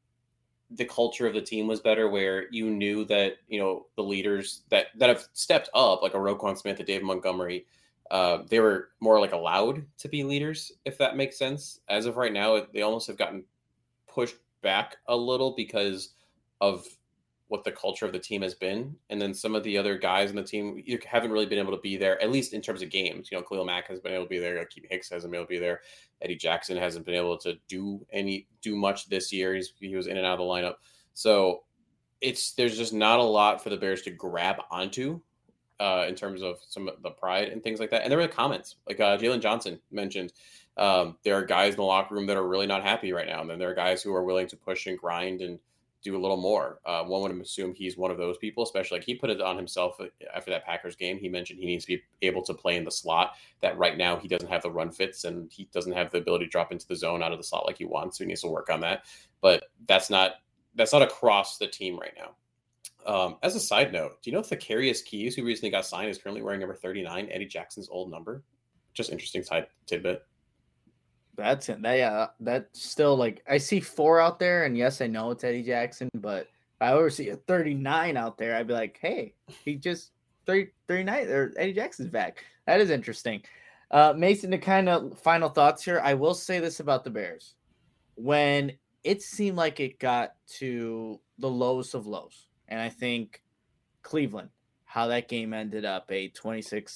the culture of the team was better, where you knew that, you know, the leaders that, that have stepped up, like a Roquan Smith, a Dave Montgomery, uh, they were more like allowed to be leaders, if that makes sense. As of right now, they almost have gotten pushed back a little because of what the culture of the team has been. And then some of the other guys in the team you haven't really been able to be there, at least in terms of games. You know, Khalil Mack has been able to be there. Akeem Hicks hasn't been able to be there. Eddie Jackson hasn't been able to do any, do much this year. He's, he was in and out of the lineup. So it's, there's just not a lot for the Bears to grab onto uh, in terms of some of the pride and things like that. And there were comments like uh, Jalen Johnson mentioned, um, there are guys in the locker room that are really not happy right now. And then there are guys who are willing to push and grind and do a little more. Uh, one would assume he's one of those people, especially like he put it on himself after that Packers game. He mentioned he needs to be able to play in the slot, that right now he doesn't have the run fits and he doesn't have the ability to drop into the zone out of the slot like he wants. So he needs to work on that. But that's not, that's not across the team right now. Um, as a side note, do you know if Thakarius Keys, who recently got signed, is currently wearing number thirty-nine, Eddie Jackson's old number? Just interesting side tidbit. That's it. That, yeah, that's still like I see four out there, and yes, I know it's Eddie Jackson, but if I ever see a thirty-nine out there, I'd be like, hey, he just thirty, thirty-nine, or Eddie Jackson's back. That is interesting. Uh, Mason, to kind of final thoughts here, I will say this about the Bears. When it seemed like it got to the lowest of lows, and I think Cleveland, how that game ended up a twenty-six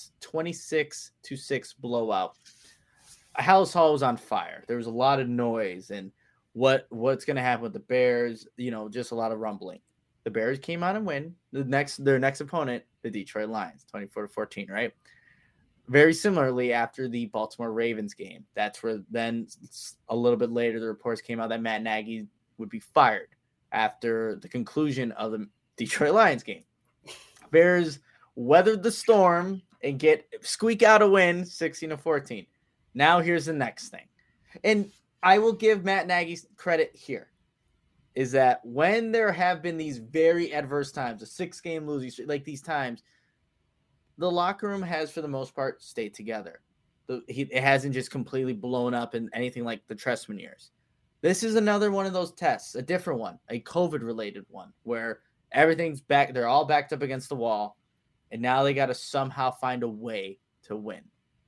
to six blowout. House Hall was on fire. There was a lot of noise and what what's going to happen with the Bears, you know, just a lot of rumbling. The Bears came out and win. The next their next opponent, the Detroit Lions, twenty-four to fourteen, right? Very similarly after the Baltimore Ravens game. That's where then a little bit later the reports came out that Matt Nagy would be fired after the conclusion of the Detroit Lions game. Bears weathered the storm and get squeak out a win sixteen to fourteen. Now here's the next thing. And I will give Matt Nagy credit here, is that when there have been these very adverse times, a six-game losing streak, like these times, the locker room has, for the most part, stayed together. The, he, it hasn't just completely blown up in anything like the Trestman years. This is another one of those tests, a different one, a COVID-related one, where everything's back, they're all backed up against the wall, and now they got to somehow find a way to win.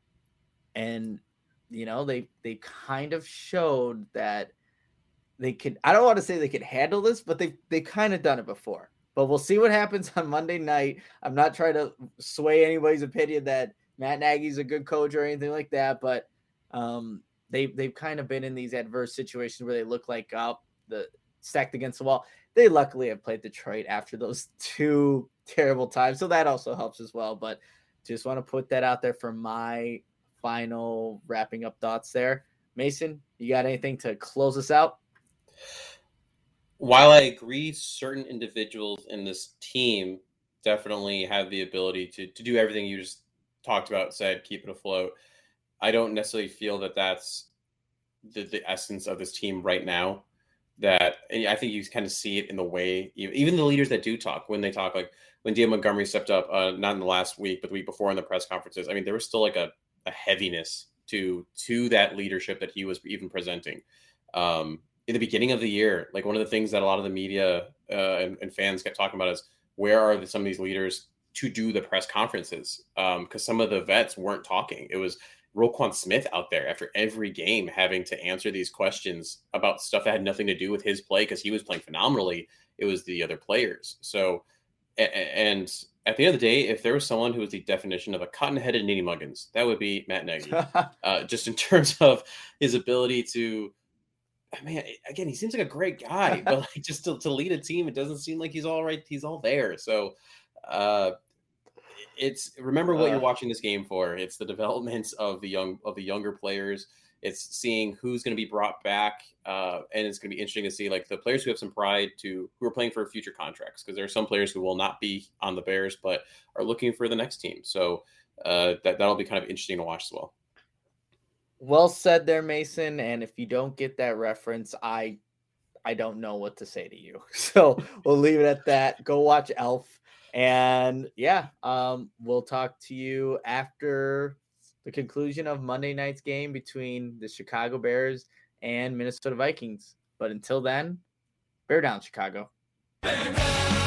And you know, they they kind of showed that they could, I don't want to say they could handle this, but they they kind of done it before. But we'll see what happens on Monday night. I'm not trying to sway anybody's opinion that Matt Nagy's a good coach or anything like that, but um, they, they've kind of been in these adverse situations where they look like oh, the stacked against the wall. They luckily have played Detroit after those two terrible times, so that also helps as well. But just want to put that out there for my final wrapping up thoughts there. Mason, you got anything to close us out? While I agree certain individuals in this team definitely have the ability to, to do everything you just talked about, said, keep it afloat, I don't necessarily feel that that's the, the essence of this team right now. That I think you kind of see it in the way, even the leaders that do talk, when they talk, like when David Montgomery stepped up, uh, not in the last week, but the week before in the press conferences, I mean, there was still like a a heaviness to to that leadership that he was even presenting. Um, in the beginning of the year, like one of the things that a lot of the media uh, and, and fans kept talking about is where are the, some of these leaders to do the press conferences? Because um, some of the vets weren't talking. It was Roquan Smith out there after every game having to answer these questions about stuff that had nothing to do with his play because he was playing phenomenally. It was the other players. So, and at the end of the day, if there was someone who was the definition of a cotton-headed Nitty Muggins, that would be Matt Nagy. uh, just in terms of his ability to, I mean, again, he seems like a great guy, but like just to, to lead a team, it doesn't seem like he's all right. He's all there. So uh, it's remember what uh, you're watching this game for. It's the development of the young of the younger players. It's seeing who's going to be brought back, uh, and it's going to be interesting to see like the players who have some pride to who are playing for future contracts, because there are some players who will not be on the Bears but are looking for the next team. So uh, that that'll be kind of interesting to watch as well. Well said there, Mason. And if you don't get that reference, I I don't know what to say to you. So we'll leave it at that. Go watch Elf, and yeah, um, we'll talk to you after the conclusion of Monday night's game between the Chicago Bears and Minnesota Vikings. But until then, bear down, Chicago. Bear down!